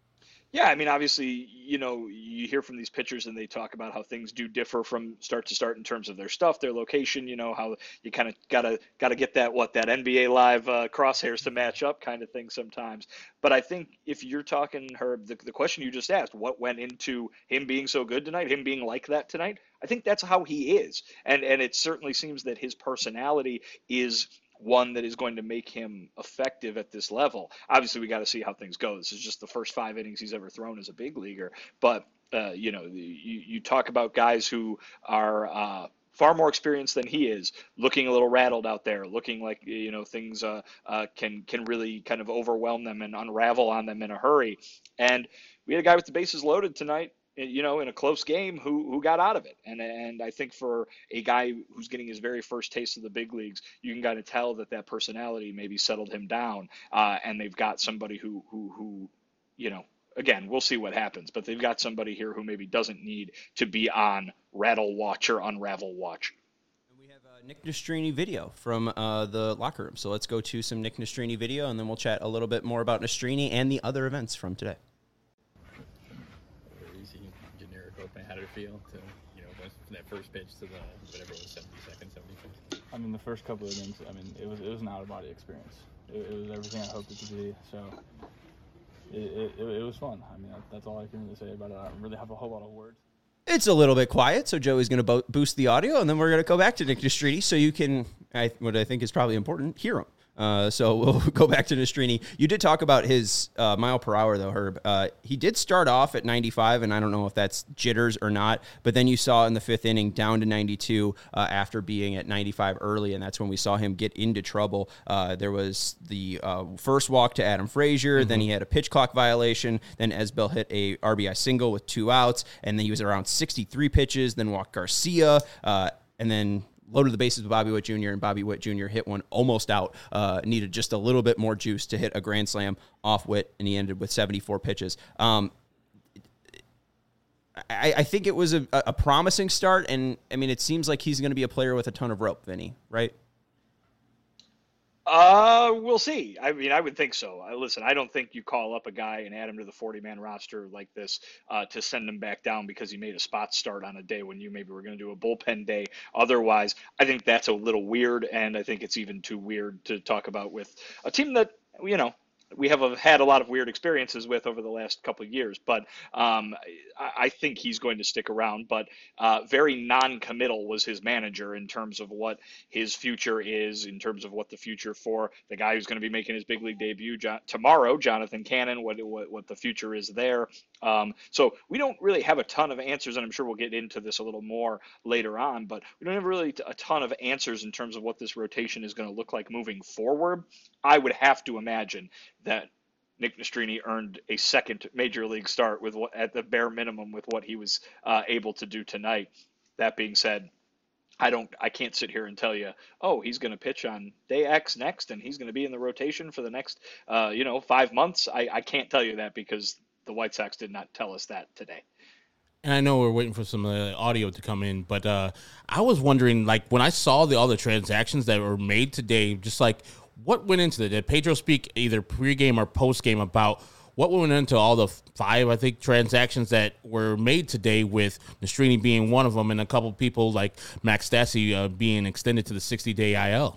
E: Yeah, I mean, obviously, you hear from these pitchers and they talk about how things do differ from start to start in terms of their stuff, their location. How you kind of gotta get that NBA Live crosshairs to match up kind of thing sometimes. But I think if you're talking Herb, the question you just asked, what went into him being so good tonight, him being like that tonight, I think that's how he is, and it certainly seems that his personality is one that is going to make him effective at this level. Obviously, we got to see how things go. This is just the first 5 innings he's ever thrown as a big leaguer. But, you talk about guys who are far more experienced than he is, looking a little rattled out there, looking like, things can really kind of overwhelm them and unravel on them in a hurry. And we had a guy with the bases loaded tonight, in a close game who got out of it. And I think for a guy who's getting his very first taste of the big leagues, you can kind of tell that personality maybe settled him down. And they've got somebody who, again, we'll see what happens, but they've got somebody here who maybe doesn't need to be on rattle watch or unravel watch.
A: We have a Nick Nastrini video from the locker room. So let's go to some Nick Nastrini video, and then we'll chat a little bit more about Nastrini and the other events from today.
F: How did it feel to, go from that first pitch to the, whatever it was, 72nd, 75th?
H: I mean, the first couple of innings, it was an out-of-body experience. It was everything I hoped it to be, so it was fun. I mean, that's all I can really say about it. I don't really have a whole lot of words. It's
A: a little bit quiet, so Joey's going to boost the audio, and then we're going to go back to Nick Nastrini so you can, what I think is probably important, hear him. So we'll go back to Nastrini. You did talk about his mile per hour, though, Herb. He did start off at 95, and I don't know if that's jitters or not, but then you saw in the 5th inning down to 92 after being at 95 early, and that's when we saw him get into trouble. There was the first walk to Adam Frazier, then he had a pitch clock violation, then Esbel hit a RBI single with 2 outs, and then he was around 63 pitches, then walked Garcia, and then loaded the bases with Bobby Witt Jr., and Bobby Witt Jr. hit one almost out, needed just a little bit more juice to hit a grand slam off Witt, and he ended with 74 pitches. I think it was a promising start, and, I mean, it seems like he's going to be a player with a ton of rope, Vinny, right?
E: We'll see. I mean, I would think so. Listen, I don't think you call up a guy and add him to the 40-man roster like this to send him back down because he made a spot start on a day when you maybe were going to do a bullpen day. Otherwise, I think that's a little weird, and I think it's even too weird to talk about with a team that, we have had a lot of weird experiences with over the last couple of years, but I think he's going to stick around. But very non-committal was his manager in terms of what his future is, in terms of what the future for the guy who's going to be making his big league debut tomorrow, Jonathan Cannon, what the future is there. So we don't really have a ton of answers, and I'm sure we'll get into this a little more later on, but we don't have really a ton of answers in terms of what this rotation is going to look like moving forward. I would have to imagine that Nick Nastrini earned a second major league start with at the bare minimum with what he was able to do tonight. That being said, I can't sit here and tell you, he's going to pitch on day X next, and he's going to be in the rotation for the next 5 months. I can't tell you that because the White Sox did not tell us that today.
B: And I know we're waiting for some audio to come in, but I was wondering, like, when I saw all the transactions that were made today, just like, what went into it? Did Pedro speak either pregame or postgame about what went into all the 5, I think, transactions that were made today, with Nastrini being one of them, and a couple of people like Max Stassi being extended to the 60-day IL?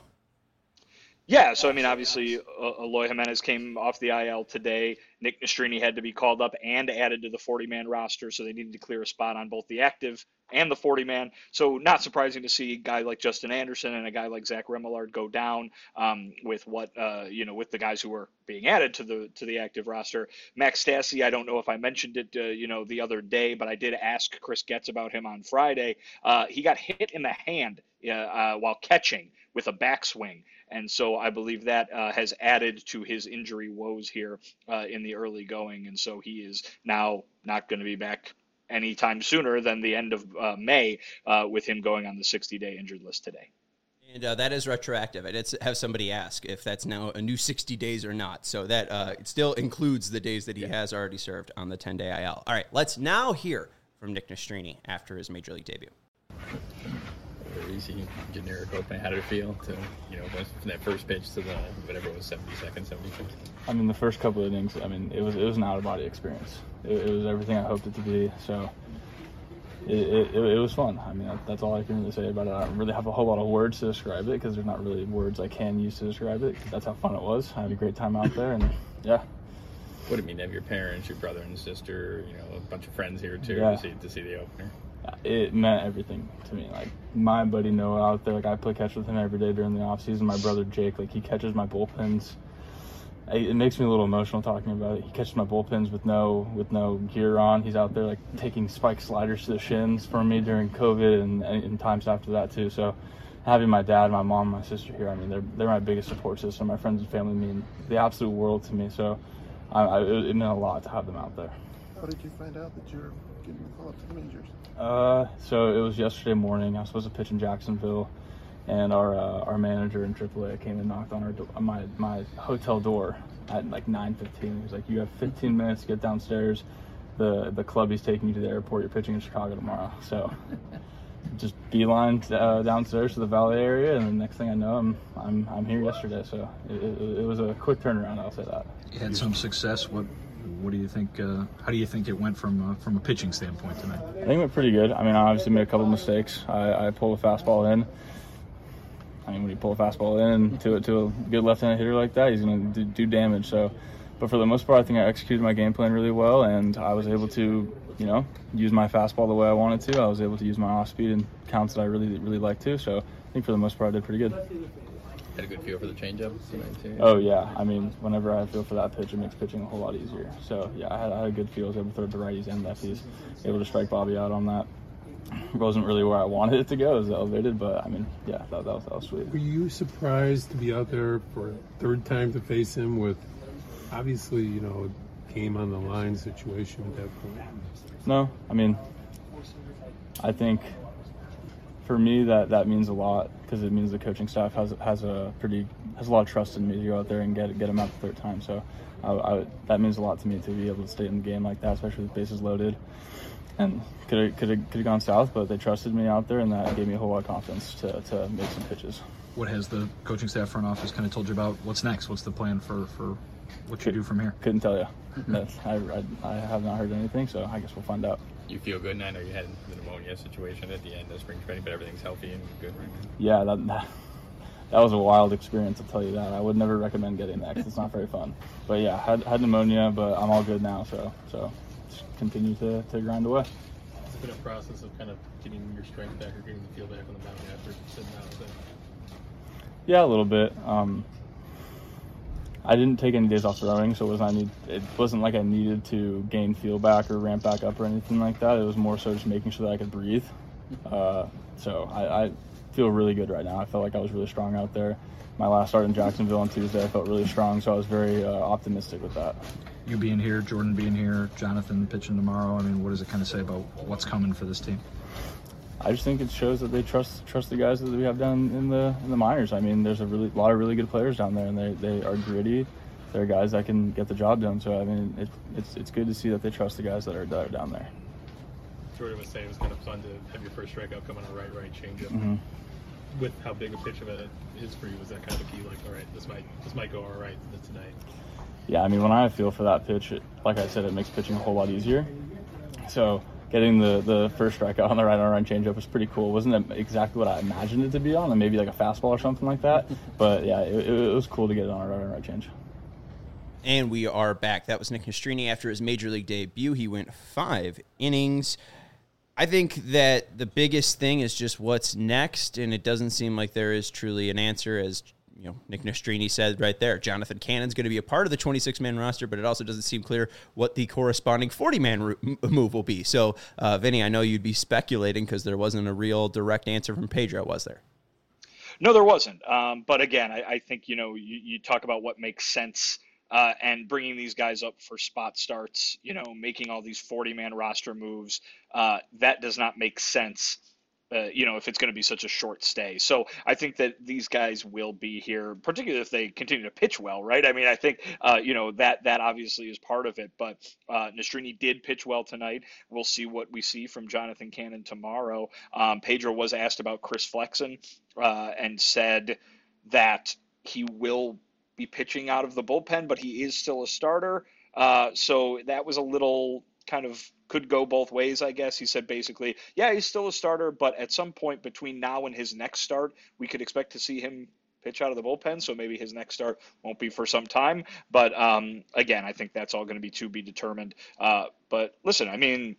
E: Yeah, so I mean, obviously, Eloy Jimenez came off the IL today. Nick Nastrini had to be called up and added to the 40-man roster, so they needed to clear a spot on both the active and the 40-man. So not surprising to see a guy like Justin Anderson and a guy like Zach Remillard go down with what with the guys who were being added to the active roster. Max Stassi, I don't know if I mentioned it the other day, but I did ask Chris Getz about him on Friday. He got hit in the hand while catching with a backswing. And so I believe that has added to his injury woes here in the early going. And so he is now not going to be back anytime sooner than the end of May with him going on the 60-day injured list today.
A: And that is retroactive. I did have somebody ask if that's now a new 60 days or not. So that it still includes the days that he has already served on the 10-day IL. All right, let's now hear from Nick Nastrini after his Major League debut.
F: or easy generic opening? How did it feel to, from that first pitch to the whatever it was, 70 seconds, 75?
H: I mean, the first couple of innings, I mean, it was an out of body experience. It was everything I hoped it to be. So it was fun. I mean, that's all I can really say about it. I don't really have a whole lot of words to describe it because there's not really words I can use to describe it. That's how fun it was. I had a great time out there, and yeah.
F: What did it mean to have your parents, your brother and sister, a bunch of friends here too to see the opener?
H: It meant everything to me. Like, my buddy Noah out there, like, I play catch with him every day during the off season. My brother Jake, like, he catches my bullpens. It makes me a little emotional talking about it. He catches my bullpens with no gear on. He's out there like taking spike sliders to the shins for me during COVID and times after that too. So having my dad, my mom, my sister here, I mean, they're my biggest support system. My friends and family mean the absolute world to me. So it meant a lot to have them out there.
I: How did you find out that you're getting the call up to the majors?
H: So it was yesterday morning. I was supposed to pitch in Jacksonville, and our manager in AAA came and knocked on my hotel door at like 9:15. He was like, "You have 15 minutes to get downstairs. The club is taking you to the airport. You're pitching in Chicago tomorrow." So just beeline downstairs to the Valley area, and the next thing I know, I'm here yesterday. So it was a quick turnaround. I'll say that.
J: You had some success. What do you think? How do you think it went from a pitching standpoint tonight?
H: I think it went pretty good. I mean, I obviously made a couple mistakes. I pulled a fastball in. I mean, when you pull a fastball in to a good left-handed hitter like that, he's going to do damage. So, but for the most part, I think I executed my game plan really well, and I was able to, use my fastball the way I wanted to. I was able to use my off-speed and counts that I really, really like to. So, I think for the most part, I did pretty good.
F: Had a good feel for the changeup tonight too.
H: Oh yeah, I mean, whenever I feel for that pitch, it makes pitching a whole lot easier. So yeah, I had a good feel. I was able to throw to righties and lefties. Able to strike Bobby out on that. It wasn't really where I wanted it to go. It was elevated, but I mean, yeah, that was sweet.
K: Were you surprised to be out there for a third time to face him with, obviously, game on the line situation at that point?
H: No, I mean, I think for me that means a lot because it means the coaching staff has a lot of trust in me to go out there and get him out the third time. So that means a lot to me to be able to stay in the game like that, especially with bases loaded. And could have gone south, but they trusted me out there, and that gave me a whole lot of confidence to make some pitches.
J: What has the coaching staff, front office kind of told you about? What's next? What's the plan for what you do from here?
H: Couldn't tell you. I have not heard anything, so I guess we'll find out.
F: You feel good? And I know you had the pneumonia situation at the end of spring training, but everything's healthy and good right now.
H: Yeah, that was a wild experience, I'll tell you that. I would never recommend getting that because it's not very fun. But yeah, had pneumonia, but I'm all good now, so just continue to grind away.
G: Has it been a process of kind of getting your strength back or getting the feel back on the mound after sitting out of it?
H: Yeah, a little bit. I didn't take any days off throwing, so it wasn't like I needed to gain feel back or ramp back up or anything like that. It was more so just making sure that I could breathe. So I feel really good right now. I felt like I was really strong out there. My last start in Jacksonville on Tuesday, I felt really strong, so I was very optimistic with that.
J: You being here, Jordan being here, Jonathan pitching tomorrow, I mean, what does it kind of say about what's coming for this team?
H: I just think it shows that they trust the guys that we have down in the minors. I mean, there's a lot of really good players down there, and they are gritty. They're guys that can get the job done. So I mean, it's good to see that they trust the guys that are down there.
G: Jordan was saying it was kind of fun to have your first strikeout come on a right changeup.
H: Mm-hmm.
G: With how big a pitch of it is for you, was that kind of key? Like, all right, this might go all right tonight.
H: Yeah, I mean, when I feel for that pitch, like I said, it makes pitching a whole lot easier. So getting the first strikeout on the right changeup was pretty cool. It wasn't exactly what I imagined it to be on, and maybe like a fastball or something like that. But yeah, it was cool to get it on a right change.
A: And we are back. That was Nick Nastrini after his major league debut. He went 5 innings. I think that the biggest thing is just what's next, and it doesn't seem like there is truly an answer, as Nick Nastrini said right there. Jonathan Cannon's going to be a part of the 26-man roster, but it also doesn't seem clear what the corresponding 40-man move will be. So, Vinny, I know you'd be speculating because there wasn't a real direct answer from Pedro, was there?
E: No, there wasn't. But again, I think, you talk about what makes sense and bringing these guys up for spot starts, making all these 40-man roster moves, that does not make sense if it's going to be such a short stay. So I think that these guys will be here, particularly if they continue to pitch well, right? I mean, I think, that obviously is part of it, but Nastrini did pitch well tonight. We'll see what we see from Jonathan Cannon tomorrow. Pedro was asked about Chris Flexen and said that he will be pitching out of the bullpen, but he is still a starter. So that was a little kind of could go both ways, I guess. He said basically, yeah, he's still a starter, but at some point between now and his next start, we could expect to see him pitch out of the bullpen. So maybe his next start won't be for some time. But again, I think that's all going to be determined. But listen, I mean,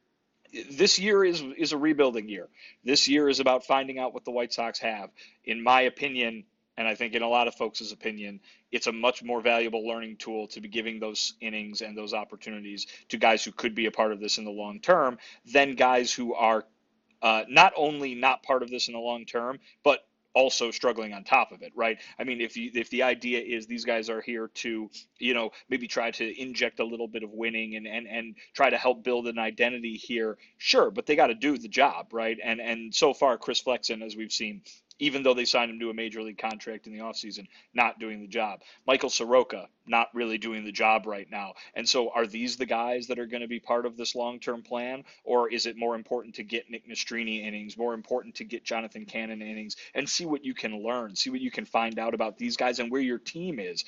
E: this year is a rebuilding year. This year is about finding out what the White Sox have. In my opinion, and I think in a lot of folks' opinion, it's a much more valuable learning tool to be giving those innings and those opportunities to guys who could be a part of this in the long term than guys who are not only not part of this in the long term, but also struggling on top of it, right? I mean, if the idea is these guys are here to, maybe try to inject a little bit of winning and try to help build an identity here, sure, but they got to do the job, right? And so far, Chris Flexen, as we've seen, even though they signed him to a major league contract in the offseason, not doing the job. Michael Soroka, not really doing the job right now. And so are these the guys that are going to be part of this long-term plan? Or is it more important to get Nick Nastrini innings, more important to get Jonathan Cannon innings, and see what you can learn, see what you can find out about these guys and where your team is?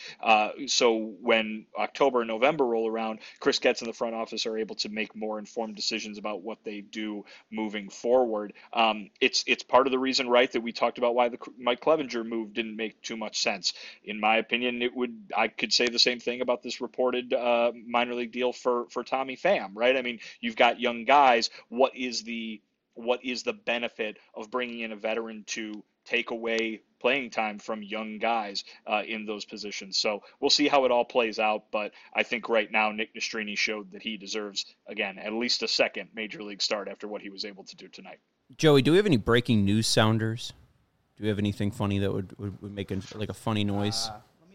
E: So when October and November roll around, Chris Getz and the front office are able to make more informed decisions about what they do moving forward. It's part of the reason, right, that we talked about why the Mike Clevenger move didn't make too much sense. In my opinion, I could say the same thing about this reported minor league deal for Tommy Pham, right? I mean, you've got young guys. What is the benefit of bringing in a veteran to take away playing time from young guys in those positions? So we'll see how it all plays out. But I think right now Nick Nastrini showed that he deserves, again, at least a second major league start after what he was able to do tonight.
A: Joey, do we have any breaking news sounders? Do we have anything funny that would make a funny noise?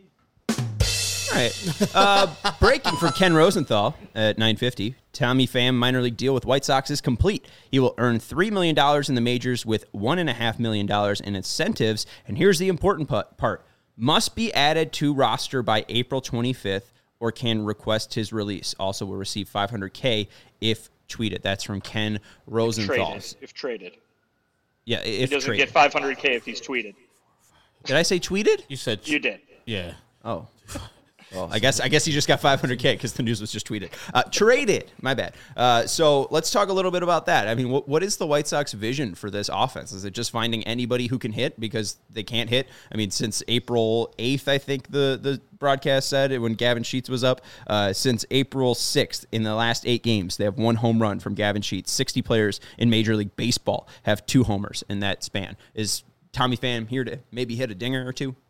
A: All right. Breaking from Ken Rosenthal at 9:50. Tommy Pham minor league deal with White Sox is complete. He will earn $3 million in the majors with $1.5 million in incentives. And here's the important part. Must be added to roster by April 25th or can request his release. Also will receive $500K if tweeted. That's from Ken Rosenthal.
E: If traded.
A: Yeah, if
E: he doesn't
A: traded.
E: get $500K if he's tweeted.
A: Did I say tweeted?
B: You said
E: you did.
B: Yeah.
A: Oh. Well, I guess he just got $500K because the news was just tweeted. Traded. My bad. So let's talk a little bit about that. I mean, what is the White Sox vision for this offense? Is it just finding anybody who can hit because they can't hit? I mean, since April 8th, I think the broadcast said when Gavin Sheets was up. Since April 6th, in the last 8 games, they have 1 home run from Gavin Sheets. 60 players in Major League Baseball have 2 homers in that span. Is Tommy Pham here to maybe hit a dinger or 2?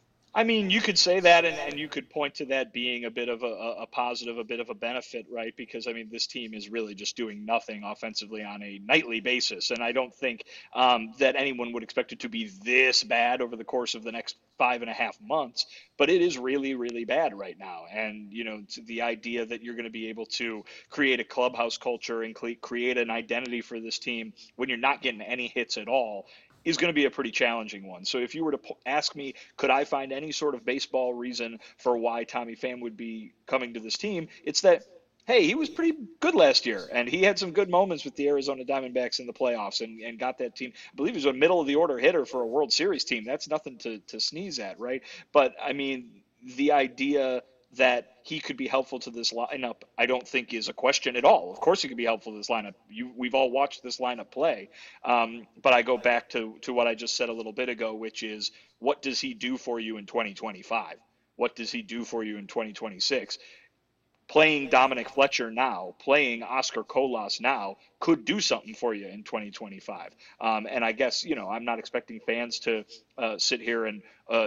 E: I mean, you could say that, and you could point to that being a bit of a positive, a bit of a benefit, right? Because, I mean, this team is really just doing nothing offensively on a nightly basis. And I don't think that anyone would expect it to be this bad over the course of the next 5.5 months. But it is really, really bad right now. And, the idea that you're going to be able to create a clubhouse culture and create an identity for this team when you're not getting any hits at all is going to be a pretty challenging one. So if you were to ask me, could I find any sort of baseball reason for why Tommy Pham would be coming to this team, it's that, hey, he was pretty good last year, and he had some good moments with the Arizona Diamondbacks in the playoffs and got that team. I believe he was a middle-of-the-order hitter for a World Series team. That's nothing to sneeze at, right? But, I mean, the idea that he could be helpful to this lineup, I don't think is a question at all. Of course he could be helpful to this lineup. We've all watched this lineup play. But I go back to what I just said a little bit ago, which is, what does he do for you in 2025? What does he do for you in 2026? Playing Dominic Fletcher now, playing Oscar Colas now could do something for you in 2025. And I guess, I'm not expecting fans to sit here and,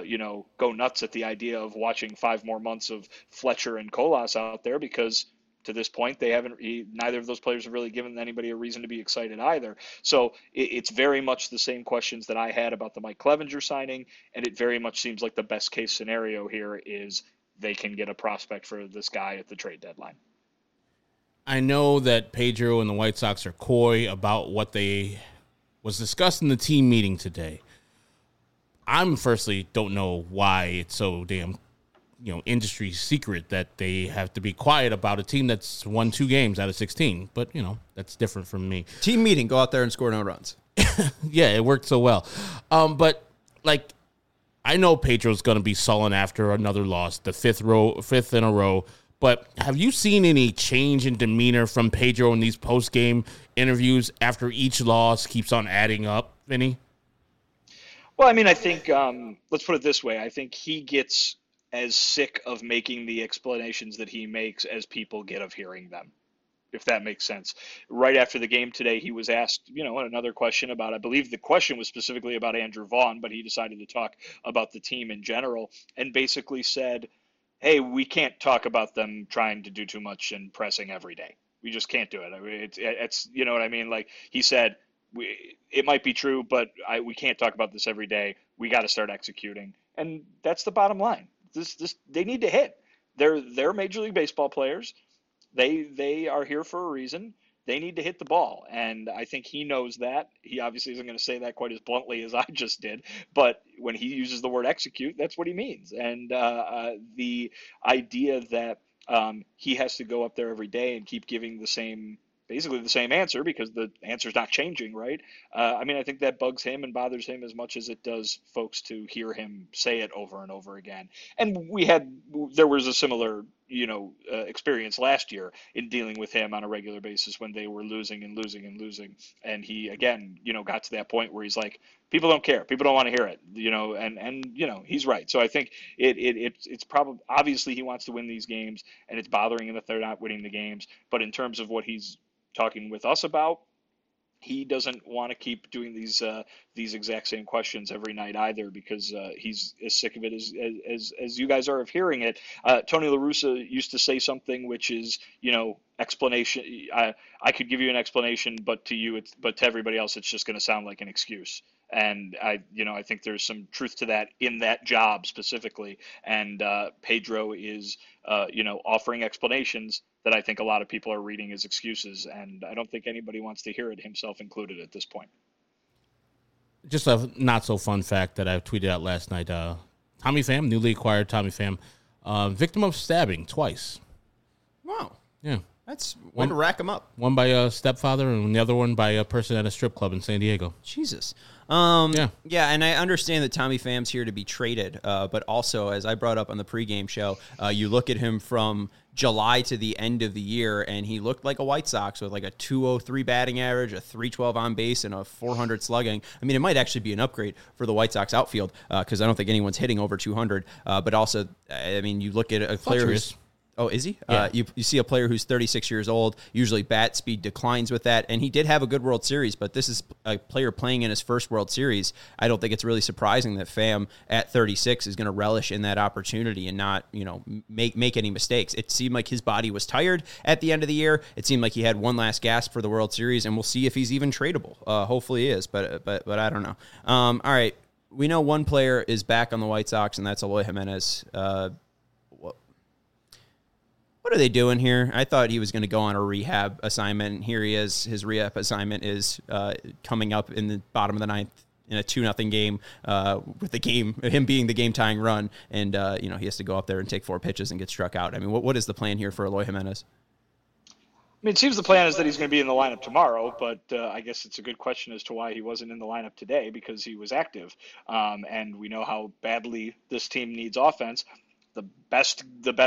E: go nuts at the idea of watching 5 more months of Fletcher and Colas out there, because to this point, neither of those players have really given anybody a reason to be excited either. So it's very much the same questions that I had about the Mike Clevenger signing. And it very much seems like the best case scenario here is they can get a prospect for this guy at the trade deadline.
B: I know that Pedro and the White Sox are coy about what they was discussed in the team meeting today. I'm firstly don't know why it's so damn, industry secret that they have to be quiet about a team that's won 2 games out of 16. But, that's different from me.
A: Team meeting, go out there and score no runs.
B: Yeah, it worked so well. But, I know Pedro's going to be sullen after another loss, the fifth in a row. But have you seen any change in demeanor from Pedro in these post-game interviews after each loss keeps on adding up, Vinny?
E: Well, I mean, I think, let's put it this way. I think he gets as sick of making the explanations that he makes as people get of hearing them, if that makes sense. Right after the game today, he was asked, another question about, I believe the question was specifically about Andrew Vaughn, but he decided to talk about the team in general and basically said, hey, we can't talk about them trying to do too much and pressing every day. We just can't do it. I mean, it's you know what I mean? Like he said, it might be true, but we can't talk about this every day. We got to start executing. And that's the bottom line. They need to hit. They're Major League Baseball players. They are here for a reason. They need to hit the ball. And I think he knows that. He obviously isn't going to say that quite as bluntly as I just did. But when he uses the word execute, that's what he means. And the idea that he has to go up there every day and keep giving basically the same answer because the answer's not changing, right? I think that bugs him and bothers him as much as it does folks to hear him say it over and over again. And there was a similar, experience last year in dealing with him on a regular basis when they were losing and losing and losing. And he, again, got to that point where he's like, people don't care. People don't want to hear it, and he's right. So I think it's probably, obviously he wants to win these games and it's bothering him that they're not winning the games. But in terms of what he's talking with us about, he doesn't want to keep doing these exact same questions every night either, because he's as sick of it as you guys are of hearing it. Tony La Russa used to say something which is, explanation. I could give you an explanation, but to everybody else, it's just going to sound like an excuse. And I think there's some truth to that in that job specifically. And Pedro is, offering explanations that I think a lot of people are reading as excuses. And I don't think anybody wants to hear it, himself included, at this point.
B: Just a not so fun fact that I tweeted out last night. Tommy Pham, newly acquired Tommy Pham, victim of stabbing twice.
A: Wow.
B: Yeah.
A: That's one to rack him up.
B: One by a stepfather and the other one by a person at a strip club in San Diego.
A: Jesus.
B: Yeah,
A: and I understand that Tommy Pham's here to be traded, but also, as I brought up on the pregame show, you look at him from July to the end of the year, and he looked like a White Sox with like a 203 batting average, a 312 on base, and a 400 slugging. I mean, it might actually be an upgrade for the White Sox outfield because I don't think anyone's hitting over 200. But also, I mean, you look at a player who's... Oh, is he?
B: Yeah.
A: You see a player who's 36 years old. Usually bat speed declines with that. And he did have a good World Series, but this is a player playing in his first World Series. I don't think it's really surprising that Pham at 36 is going to relish in that opportunity and not, make any mistakes. It seemed like his body was tired at the end of the year. It seemed like he had one last gasp for the World Series, and we'll see if he's even tradable. Hopefully he is, but I don't know. All right. We know one player is back on the White Sox, and that's Eloy Jimenez. What are they doing here? I thought he was going to go on a rehab assignment. Here he is. His rehab assignment is coming up in the bottom of the ninth in a 2-0 game with him being the game-tying run. And, he has to go up there and take 4 pitches and get struck out. I mean, what is the plan here for Eloy Jimenez?
E: I mean, it seems the plan is that he's going to be in the lineup tomorrow, but I guess it's a good question as to why he wasn't in the lineup today, because he was active. And we know how badly this team needs offense. The best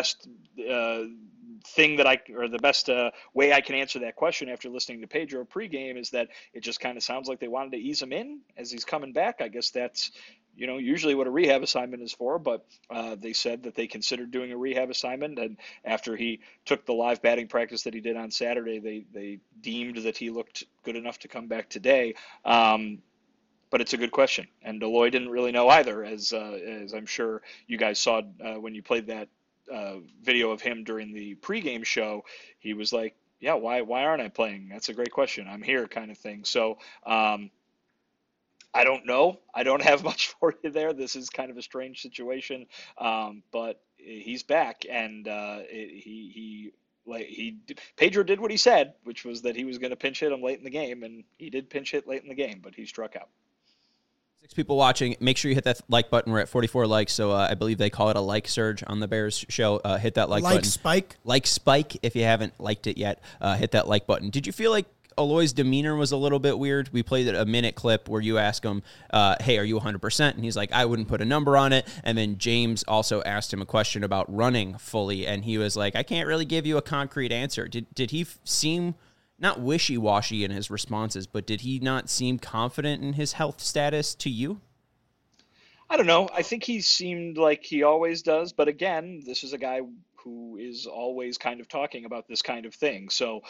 E: way I can answer that question after listening to Pedro pregame is that it just kind of sounds like they wanted to ease him in as he's coming back. I guess that's, usually what a rehab assignment is for, but they said that they considered doing a rehab assignment. And after he took the live batting practice that he did on Saturday, they deemed that he looked good enough to come back today. But it's a good question, and Eloy didn't really know either, as I'm sure you guys saw when you played that video of him during the pregame show. He was like, "Yeah, why aren't I playing? That's a great question. I'm here," kind of thing. So I don't know. I don't have much for you there. This is kind of a strange situation, but he's back, and he Pedro did what he said, which was that he was going to pinch hit him late in the game, and he did pinch hit late in the game, but he struck out.
A: 6 people watching. Make sure you hit that like button. We're at 44 likes, so I believe they call it a like surge on the Bears show. Hit that like button. Like spike. If you haven't liked it yet, hit that like button. Did you feel like Eloy's demeanor was a little bit weird? We played a minute clip where you ask him, hey, are you 100%? And he's like, I wouldn't put a number on it. And then James also asked him a question about running fully, and he was like, I can't really give you a concrete answer. Did he seem not wishy-washy in his responses, but did he not seem confident in his health status to you?
E: I don't know. I think he seemed like he always does. But again, this is a guy who is always kind of talking about this kind of thing. So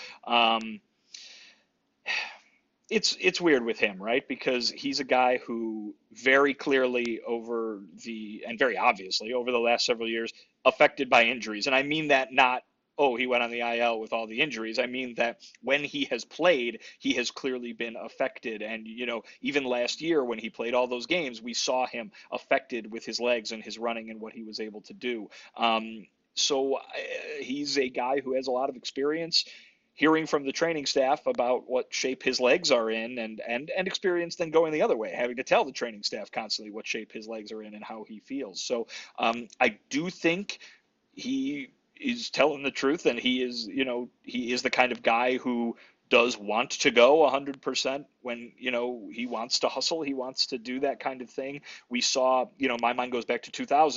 E: it's weird with him, right? Because he's a guy who very clearly and very obviously over the last several years affected by injuries. And I mean that not, oh, he went on the IL with all the injuries. I mean that when he has played, he has clearly been affected. And, even last year when he played all those games, we saw him affected with his legs and his running and what he was able to do. So he's a guy who has a lot of experience hearing from the training staff about what shape his legs are in and experience then going the other way, having to tell the training staff constantly what shape his legs are in and how he feels. So I do think he is telling the truth, and he is the kind of guy who does want to go 100% when, he wants to hustle. He wants to do that kind of thing. We saw, my mind goes back to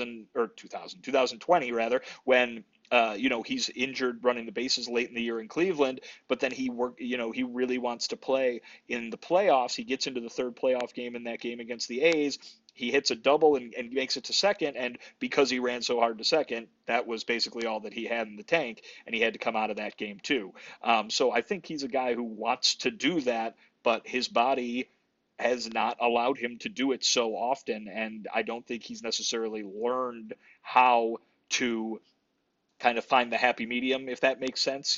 E: 2020 rather, when, he's injured running the bases late in the year in Cleveland, but then he really wants to play in the playoffs. He gets into the third playoff game in that game against the A's. He hits a double and makes it to second, and because he ran so hard to second, that was basically all that he had in the tank, and he had to come out of that game too. So I think he's a guy who wants to do that, but his body has not allowed him to do it so often, and I don't think he's necessarily learned how to kind of find the happy medium, if that makes sense.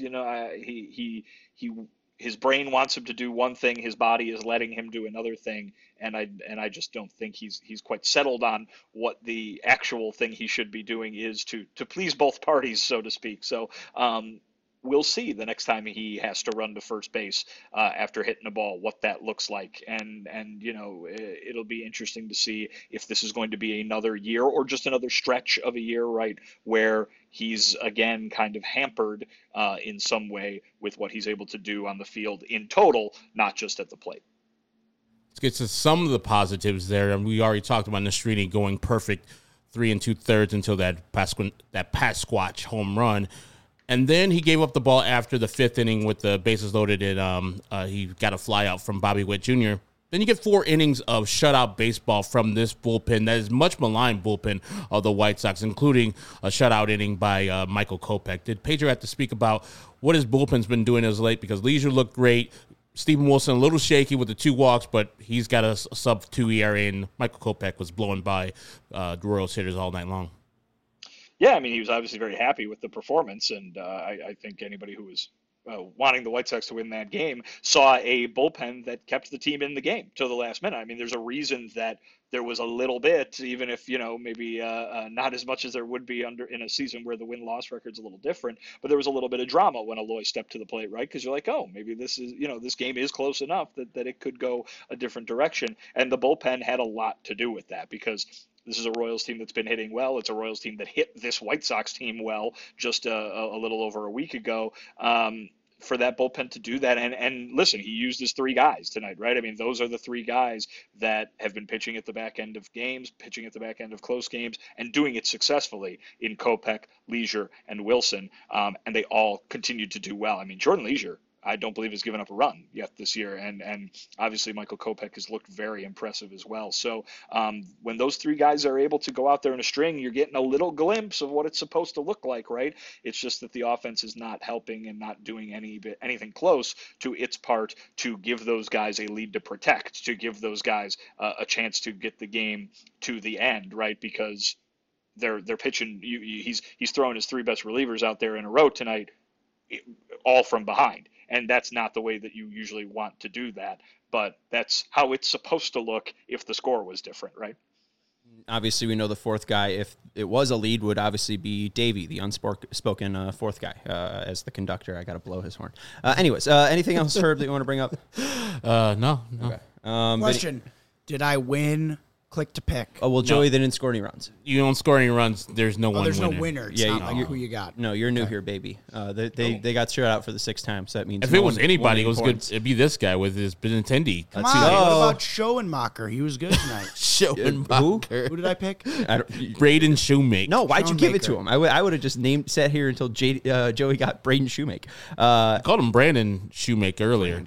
E: His brain wants him to do one thing, his body is letting him do another thing, and I just don't think he's quite settled on what the actual thing he should be doing is to please both parties, so to speak. So we'll see the next time he has to run to first base after hitting a ball, what that looks like. And it'll be interesting to see if this is going to be another year or just another stretch of a year, right, where he's again kind of hampered in some way with what he's able to do on the field in total, not just at the plate.
B: Let's get to some of the positives there. And we already talked about Nastrini going perfect 3 2/3 until that Pasquatch home run. And then he gave up the ball after the 5th inning with the bases loaded, and he got a fly out from Bobby Witt Jr. Then you get 4 innings of shutout baseball from this bullpen that is much maligned bullpen of the White Sox, including a shutout inning by Michael Kopech. Did Pedro have to speak about what his bullpen's been doing as late? Because Leisure looked great. Steven Wilson a little shaky with the 2 walks, but he's got a sub-2 ERA, and Michael Kopech was blowing by the Royals hitters all night long.
E: Yeah, I mean, he was obviously very happy with the performance, and I think anybody who was wanting the White Sox to win that game saw a bullpen that kept the team in the game till the last minute. I mean, there's a reason that there was a little bit, even if, maybe not as much as there would be in a season where the win-loss record's a little different, but there was a little bit of drama when Eloy stepped to the plate, right? Because you're like, oh, maybe this is, this game is close enough that it could go a different direction. And the bullpen had a lot to do with that, because this is a Royals team that's been hitting well. It's a Royals team that hit this White Sox team well just a little over a week ago. For that bullpen to do that. And listen, he used his 3 guys tonight, right? I mean, those are the 3 guys that have been pitching at the back end of games, pitching at the back end of close games, and doing it successfully in Kopech, Leisure, and Wilson. And they all continued to do well. I mean, Jordan Leisure, I don't believe has given up a run yet this year. And obviously Michael Kopech has looked very impressive as well. So when those 3 guys are able to go out there in a string, you're getting a little glimpse of what it's supposed to look like, right? It's just that the offense is not helping and not doing anything close to its part to give those guys a lead to protect, to give those guys a chance to get the game to the end, right? Because they're pitching. He's throwing his 3 best relievers out there in a row tonight, all from behind. And that's not the way that you usually want to do that. But that's how it's supposed to look if the score was different, right?
A: Obviously, we know the fourth guy, if it was a lead, would obviously be Davey, the unspoken fourth guy, as the conductor. I got to blow his horn. Anyways, anything else, Herb, that you want to bring up?
B: No.
A: Okay.
C: Question: did I win? Click to pick.
A: Oh, well, Joey, they didn't score any runs.
B: You don't score any runs. There's no one
C: There's
B: winner.
C: no winner. It's not like who you got.
A: No, you're new here, baby. They got shut out for the 6th time, so that means
B: If
A: no
B: it was
A: one
B: anybody, it
A: won
B: was
A: any
B: good.
A: points.
B: It'd be this guy with his Benintendi.
C: Come on. What about Schoenmacher? He was good tonight.
B: Schoenmacher.
C: Who did I pick?
B: Braden Shoemaker.
A: No, why'd you give it to
C: Shoemaker.
A: him? I would have just sat here until Joey got Braden Shoemaker.
B: I called him Brandon Shoemaker earlier.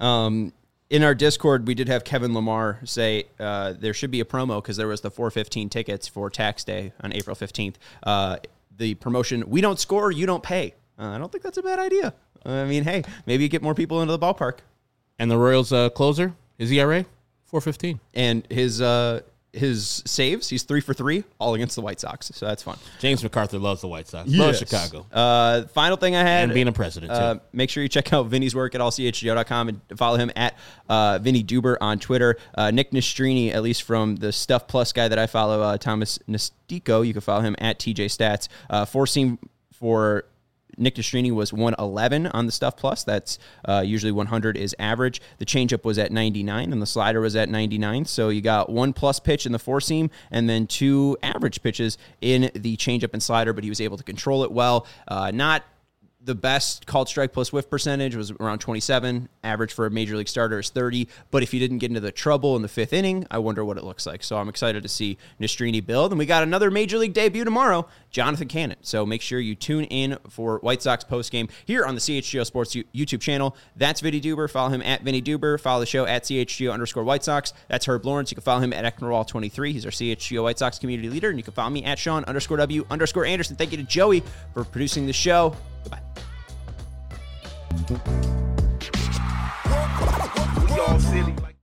A: In our Discord, we did have Kevin Lamar say there should be a promo because there was the 415 tickets for tax day on April 15th. The promotion, we don't score, you don't pay. I don't think that's a bad idea. I mean, hey, maybe you get more people into the ballpark.
B: And the Royals closer, his ERA, 4.15.
A: And his saves, he's 3 for 3, all against the White Sox. So that's fun.
B: James MacArthur loves the White Sox.
A: Yes.
B: Loves Chicago.
A: Final thing I had.
B: And being a president, too.
A: Make sure you check out Vinny's work at allchgo.com and follow him at Vinny Duber on Twitter. Nick Nastrini, at least from the Stuff Plus guy that I follow, Thomas Nastico, you can follow him at TJ Stats. Four-seam for Nick Nastrini was 111 on the Stuff Plus. That's usually 100 is average. The changeup was at 99, and the slider was at 99. So you got 1 plus pitch in the four-seam, and then 2 average pitches in the changeup and slider, but he was able to control it well. Not the best called strike plus whiff percentage was around 27. Average for a major league starter is 30. But if he didn't get into the trouble in the 5th inning, I wonder what it looks like. So I'm excited to see Nastrini build. And we got another major league debut tomorrow, Jonathan Cannon. So make sure you tune in for White Sox postgame here on the CHGO Sports YouTube channel. That's Vinny Duber. Follow him at Vinny Duber. Follow the show at CHGO_White Sox. That's Herb Lawrence. You can follow him at Ecknerwall23. He's our CHGO White Sox community leader. And you can follow me at Sean_W_Anderson. Thank you to Joey for producing the show. Goodbye.
L: We all silly like